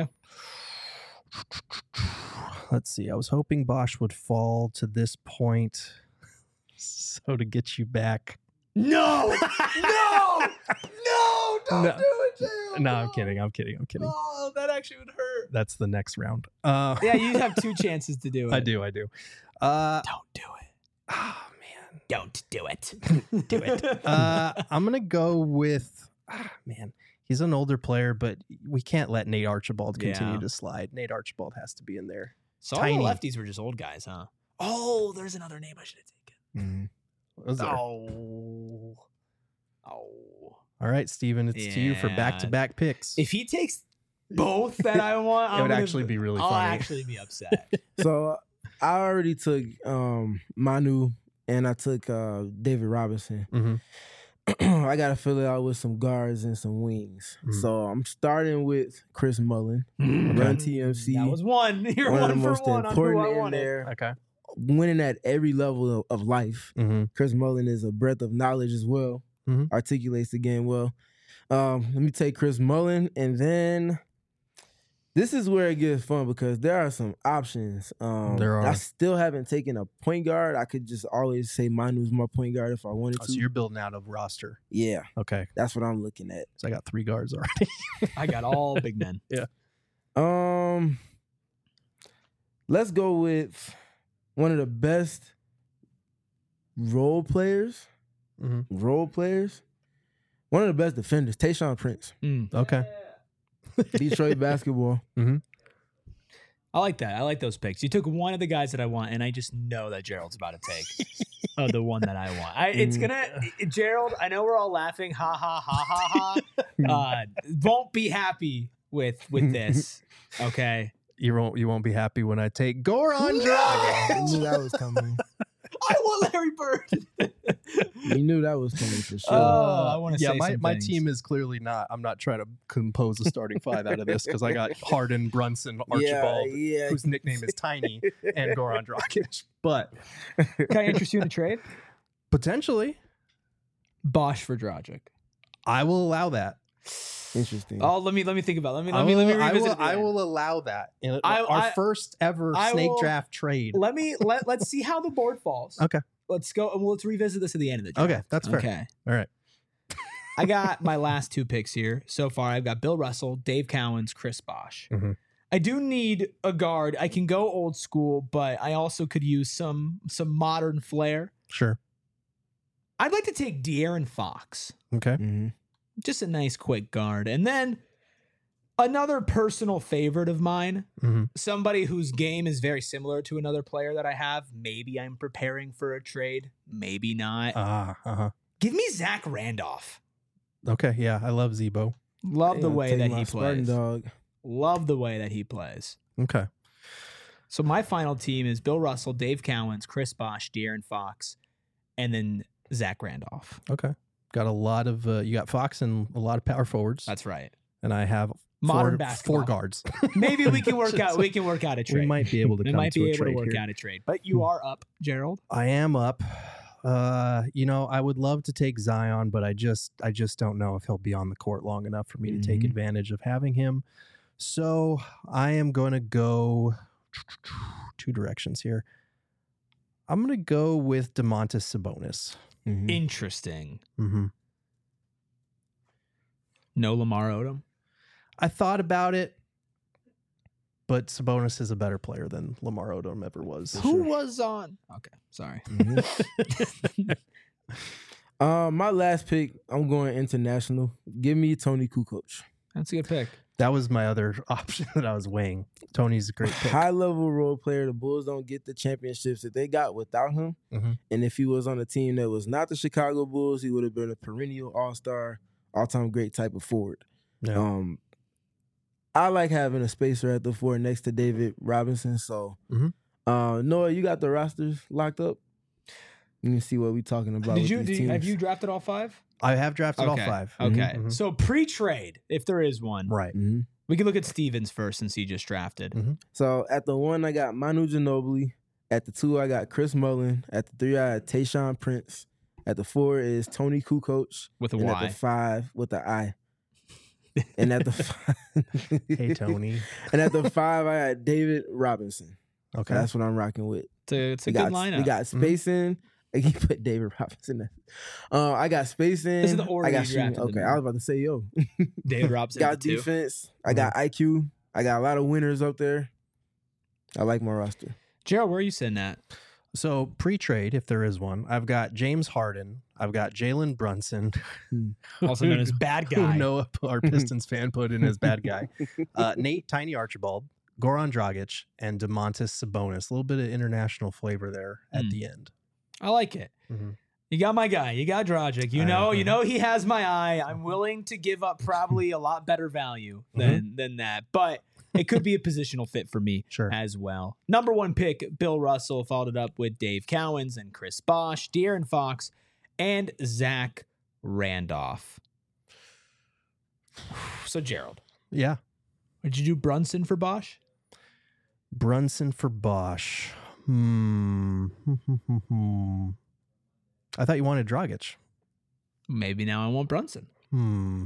Let's see. I was hoping Bosch would fall to this point, so to get you back. No, no, no! Don't No. do it, Gerald. No, I'm kidding. I'm kidding. I'm kidding. Oh, that actually would hurt. That's the next round. Uh, Yeah, you have two chances to do it. I do. I do. Uh, Don't do it. oh man. Don't do it. Do it. Uh, I'm gonna go with. Ah, man, he's an older player, but we can't let Nate Archibald continue Yeah. to slide. Nate Archibald has to be in there. So all Tiny. the lefties were just old guys, huh? Oh, there's another name I should have taken. Was there? Oh. Oh. All right, Steven, it's to you for Yeah. back-to-back picks. If he takes both that I want, It I'm would gonna- actually be really I'll funny. actually be upset. So I already took um Manu and I took uh David Robinson. Mhm. I gotta fill it out with some guards and some wings. Mhm. So I'm starting with Chris Mullen. Run T M C. That was one. You're one one, of the for most one on who I important in wanted. there. Okay. Winning at every level of, of life. Mm-hmm. Chris Mullen is a breadth of knowledge as well. Mhm. Articulates the game well. Um, let me take Chris Mullen, and then this is where it gets fun because there are some options. Um, There I are. still haven't taken a point guard. I could just always say Manu's my point guard if I wanted Oh, to. so you're building out a roster. Yeah, Okay. that's what I'm looking at. So I got three guards already. I got all big men. Um, let's go with one of the best role players. Mhm. Role players. One of the best defenders, Tayshaun Prince, Mm. Okay. Detroit basketball. I like that. I like those picks. You took one of the guys that I want, and I just know that Gerald's about to take uh, the one that I want. I, it's Mm. gonna, Gerald. I know we're all laughing, ha ha ha ha ha. Uh, won't be happy with with this. Okay, You won't. You won't be happy when I take Goran I Dragic. knew that was coming. I want Larry Bird. You knew that was coming for sure. Oh, I wanna Yeah, say my, some my things. team is clearly not. I'm not trying to compose a starting five out of this because I got Harden, Brunson, Archibald, yeah, yeah. whose nickname is Tiny, and Goran Dragic. But Can I interest you in a trade? potentially, Bosch for Dragic. I will allow that. Interesting. Oh, let me let me think about it. Let me let I me let me will- I revisit will, it I again. will allow that. In I- our I- first ever I snake will- draft trade. Let me let let's see how the board falls. Okay. Let's go and let's revisit this at the end of the draft. Okay, that's fair. Okay. All right. I got my last two picks here so far. I've got Bill Russell, Dave Cowens, Chris Bosh. Mhm. I do need a guard. I can go old school, but I also could use some some modern flair. Sure. I'd like to take De'Aaron Fox. Okay. Mm-hmm. Just a nice quick guard. And then another personal favorite of mine, Mhm. somebody whose game is very similar to another player that I have. Maybe I'm preparing for a trade, maybe not. Ah, uh-huh. Give me Zach Randolph. Okay. Yeah, I love Zebo. Love the I'll way take that my he Spartan plays. Dog. Love the way that he plays. Okay. So my final team is Bill Russell, Dave Cowens, Chris Bosh, De'Aaron Fox, and then Zach Randolph. Okay. Got a lot of uh, you got Fox and a lot of power forwards. That's right. And I have Modern four, basketball. four guards. Maybe we can work out. So We can work out a trade. we might be able to We come might to be a able to trade work here. out a trade. But you are up, Gerald. I am up. Uh, you know, I would love to take Zion, but I just I just don't know if he'll be on the court long enough for me to take Mhm. advantage of having him. So I am going to go two directions here. I'm going to go with DeMontis Sabonis. Mhm. Interesting. Mm-hmm. No Lamar Odom. I thought about it, but Sabonis is a better player than Lamar Odom ever was. Who was on? Okay, sorry. Mhm. Um, my last pick, I'm going international. Give me Tony Kukoc. That's a good pick. That was my other option that I was weighing. Tony's a great pick. High level role player. The Bulls don't get the championships that they got without him. Mhm. And if he was on a team that was not the Chicago Bulls, he would have been a perennial all star, all time great type of forward. Yeah. Um, I like having a spacer at the four next to David Robinson. So, Mhm. uh, Noah, you got the rosters locked up. You can see what we talking about. Did with you, these did you have teams. you drafted all five? I have drafted okay. all five. Okay. Mhm. So pre-trade, if there is one, Right. Mhm. we can look at Stevens first since he just drafted. Mhm. So at the one, I got Manu Ginobili. At the two, I got Chris Mullin. At the three, I had Tayshaun Prince. At the four is Tony Kukoc. With a and Y. at the five, with the I. And at the five, Hey, Tony. And at the five, I had David Robinson. Okay. That's what I'm rocking with. It's a, it's a we good got, lineup. We got spacing. He put David Robinson there. Uh, I got spacing. This is the order I got you shooting. drafted them Okay, in. I was about to say, yo. David Robinson. got at the two. defense. I got I Q. I got a lot of winners up there. I like my roster. Gerald, where are you sitting at? So pre-trade, if there is one, I've got James Harden. I've got Jalen Brunson, Also known as bad who guy. Noah, our Pistons fan, put in as bad guy. Uh, Nate Tiny Archibald, Goran Dragic, and DeMontis Sabonis. A little bit of international flavor there at Mm. the end. I like it. Mhm. You got my guy. You got Dragic. You I know, know. you know he has my eye. I'm willing to give up probably a lot better value than than that, but it could be a positional fit for me Sure. as well. Number one pick, Bill Russell, followed it up with Dave Cowens and Chris Bosh, De'Aaron Fox, and Zach Randolph. So Gerald, Yeah. did you do Brunson for Bosh? Brunson for Bosch. Hmm. I thought you wanted Dragic. Maybe now I want Brunson. Hmm.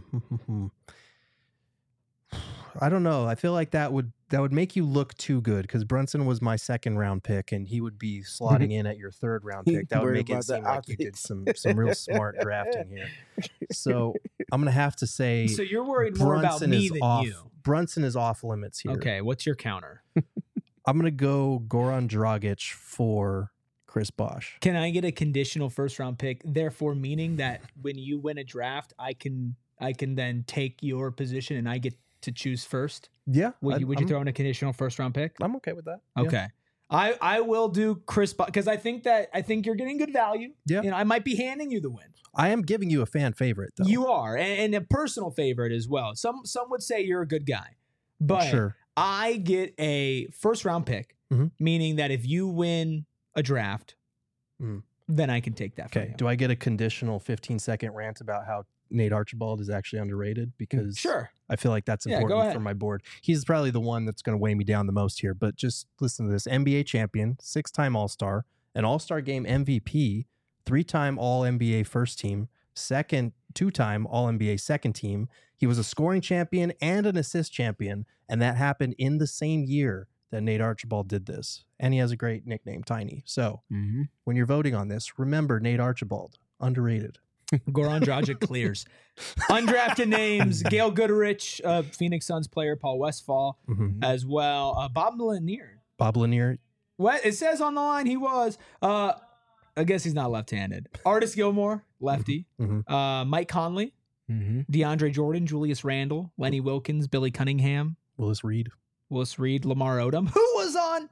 I don't know. I feel like that would that would make you look too good because Brunson was my second round pick and he would be slotting in at your third round pick. That would Worried make it about the seem like you did optics. some some real smart drafting here. So I'm gonna have to say So you're worried more about Brunson me is than off. you. Brunson is off limits here. Okay, what's your counter? I'm gonna go Goran Dragic for Chris Bosh. Can I get a conditional first round pick? Therefore, meaning that when you win a draft, I can I can then take your position and I get to choose first. Yeah. Would I- you would you I'm, throw in a conditional first round pick? I'm okay with that. Yeah. Okay. I, I will do Chris because I think that I think you're getting good value. Yeah. You know, I might be handing you the win. I am giving you a fan favorite though. You are, and, and a personal favorite as well. Some some would say you're a good guy, but sure. I get a first round pick, Mhm. meaning that if you win a draft, Mhm. then I can take that. From Okay. you. Do I get a conditional fifteen second rant about how Nate Archibald is actually underrated? Because Sure. I feel like that's Yeah, go important ahead. for my board. He's probably the one that's going to weigh me down the most here. But just listen to this: N B A champion, six-time All-Star, an All-Star Game M V P, three-time All N B A first team, second two-time All N B A second team. He was a scoring champion and an assist champion, and that happened in the same year that Nate Archibald did this. And he has a great nickname, Tiny. So Mm-hmm. when you're voting on this, remember Nate Archibald, underrated. Goran Dragic clears. Undrafted names: Gail Goodrich, uh, Phoenix Suns player, Paul Westphal Mhm. as well. Uh, Bob Lanier. Bob Lanier, What it says on the line, he was. Uh, I guess he's not left-handed. Artis Gilmore, lefty. Mhm. Uh, Mike Conley, Mm-hmm. DeAndre Jordan, Julius Randle, Lenny Wilkins, Billy Cunningham, Willis Reed. Willis Reed, Lamar Odom, who was on.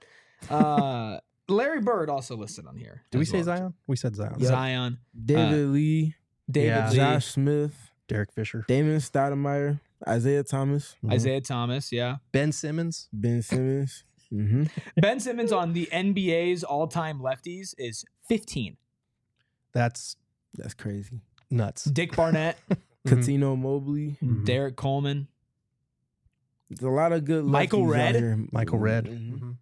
Uh, Larry Bird also listed on here. Did we as say well. Zion? We said Zion. Yep. Zion, David Lee, David Yeah. Lee, Josh Smith, Derek Fisher. Damon Stoudemire, Isaiah Thomas, Mhm. Isaiah Thomas, yeah. Ben Simmons. Ben Simmons. Mm-hmm. Ben Simmons on the N B A's all-time lefties is fifteen. That's That's crazy. nuts. Dick Barnett, Mhm. Katino Mobley. Mhm. Derek Coleman, There's a lot of good Michael lefties out Redd? here. Michael Redd. Mhm. Mhm.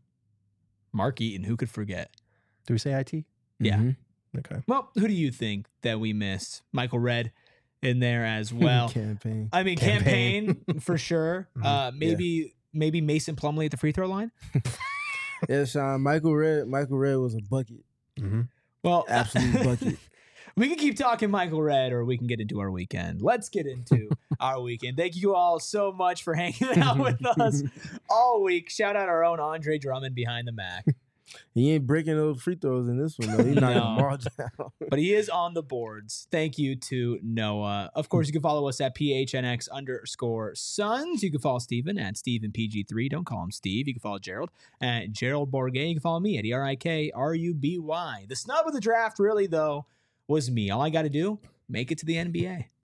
Mark Eaton. Who could forget? Do we say I T? Yeah. Mhm. Okay. Well, who do you think that we missed? Michael Redd in there as well. Campaign. I mean, Campaign. campaign, for sure. Mhm. Uh, maybe maybe Mason Plumlee at the free throw line. Yeah, Sean. Michael Redd. Michael Redd was a bucket. Mm-hmm. Well, Absolute bucket. we can keep talking Michael Redd, or we can get into our weekend. Let's get into our weekend. Thank you all so much for hanging out with us all week. Shout out our own Andre Drummond behind the Mac. He ain't breaking those free throws in this one, though. He's not No. going to march down. But he is on the boards. Thank you to Noah. Of course, you can follow us at P H N X underscore Suns. You can follow Steven at Steven P G three. Don't call him Steve. You can follow Gerald at Gerald Bourguet. You can follow me at E R I K R U B Y. The snub of the draft, really, though, was me. All I got to do, make it to the N B A.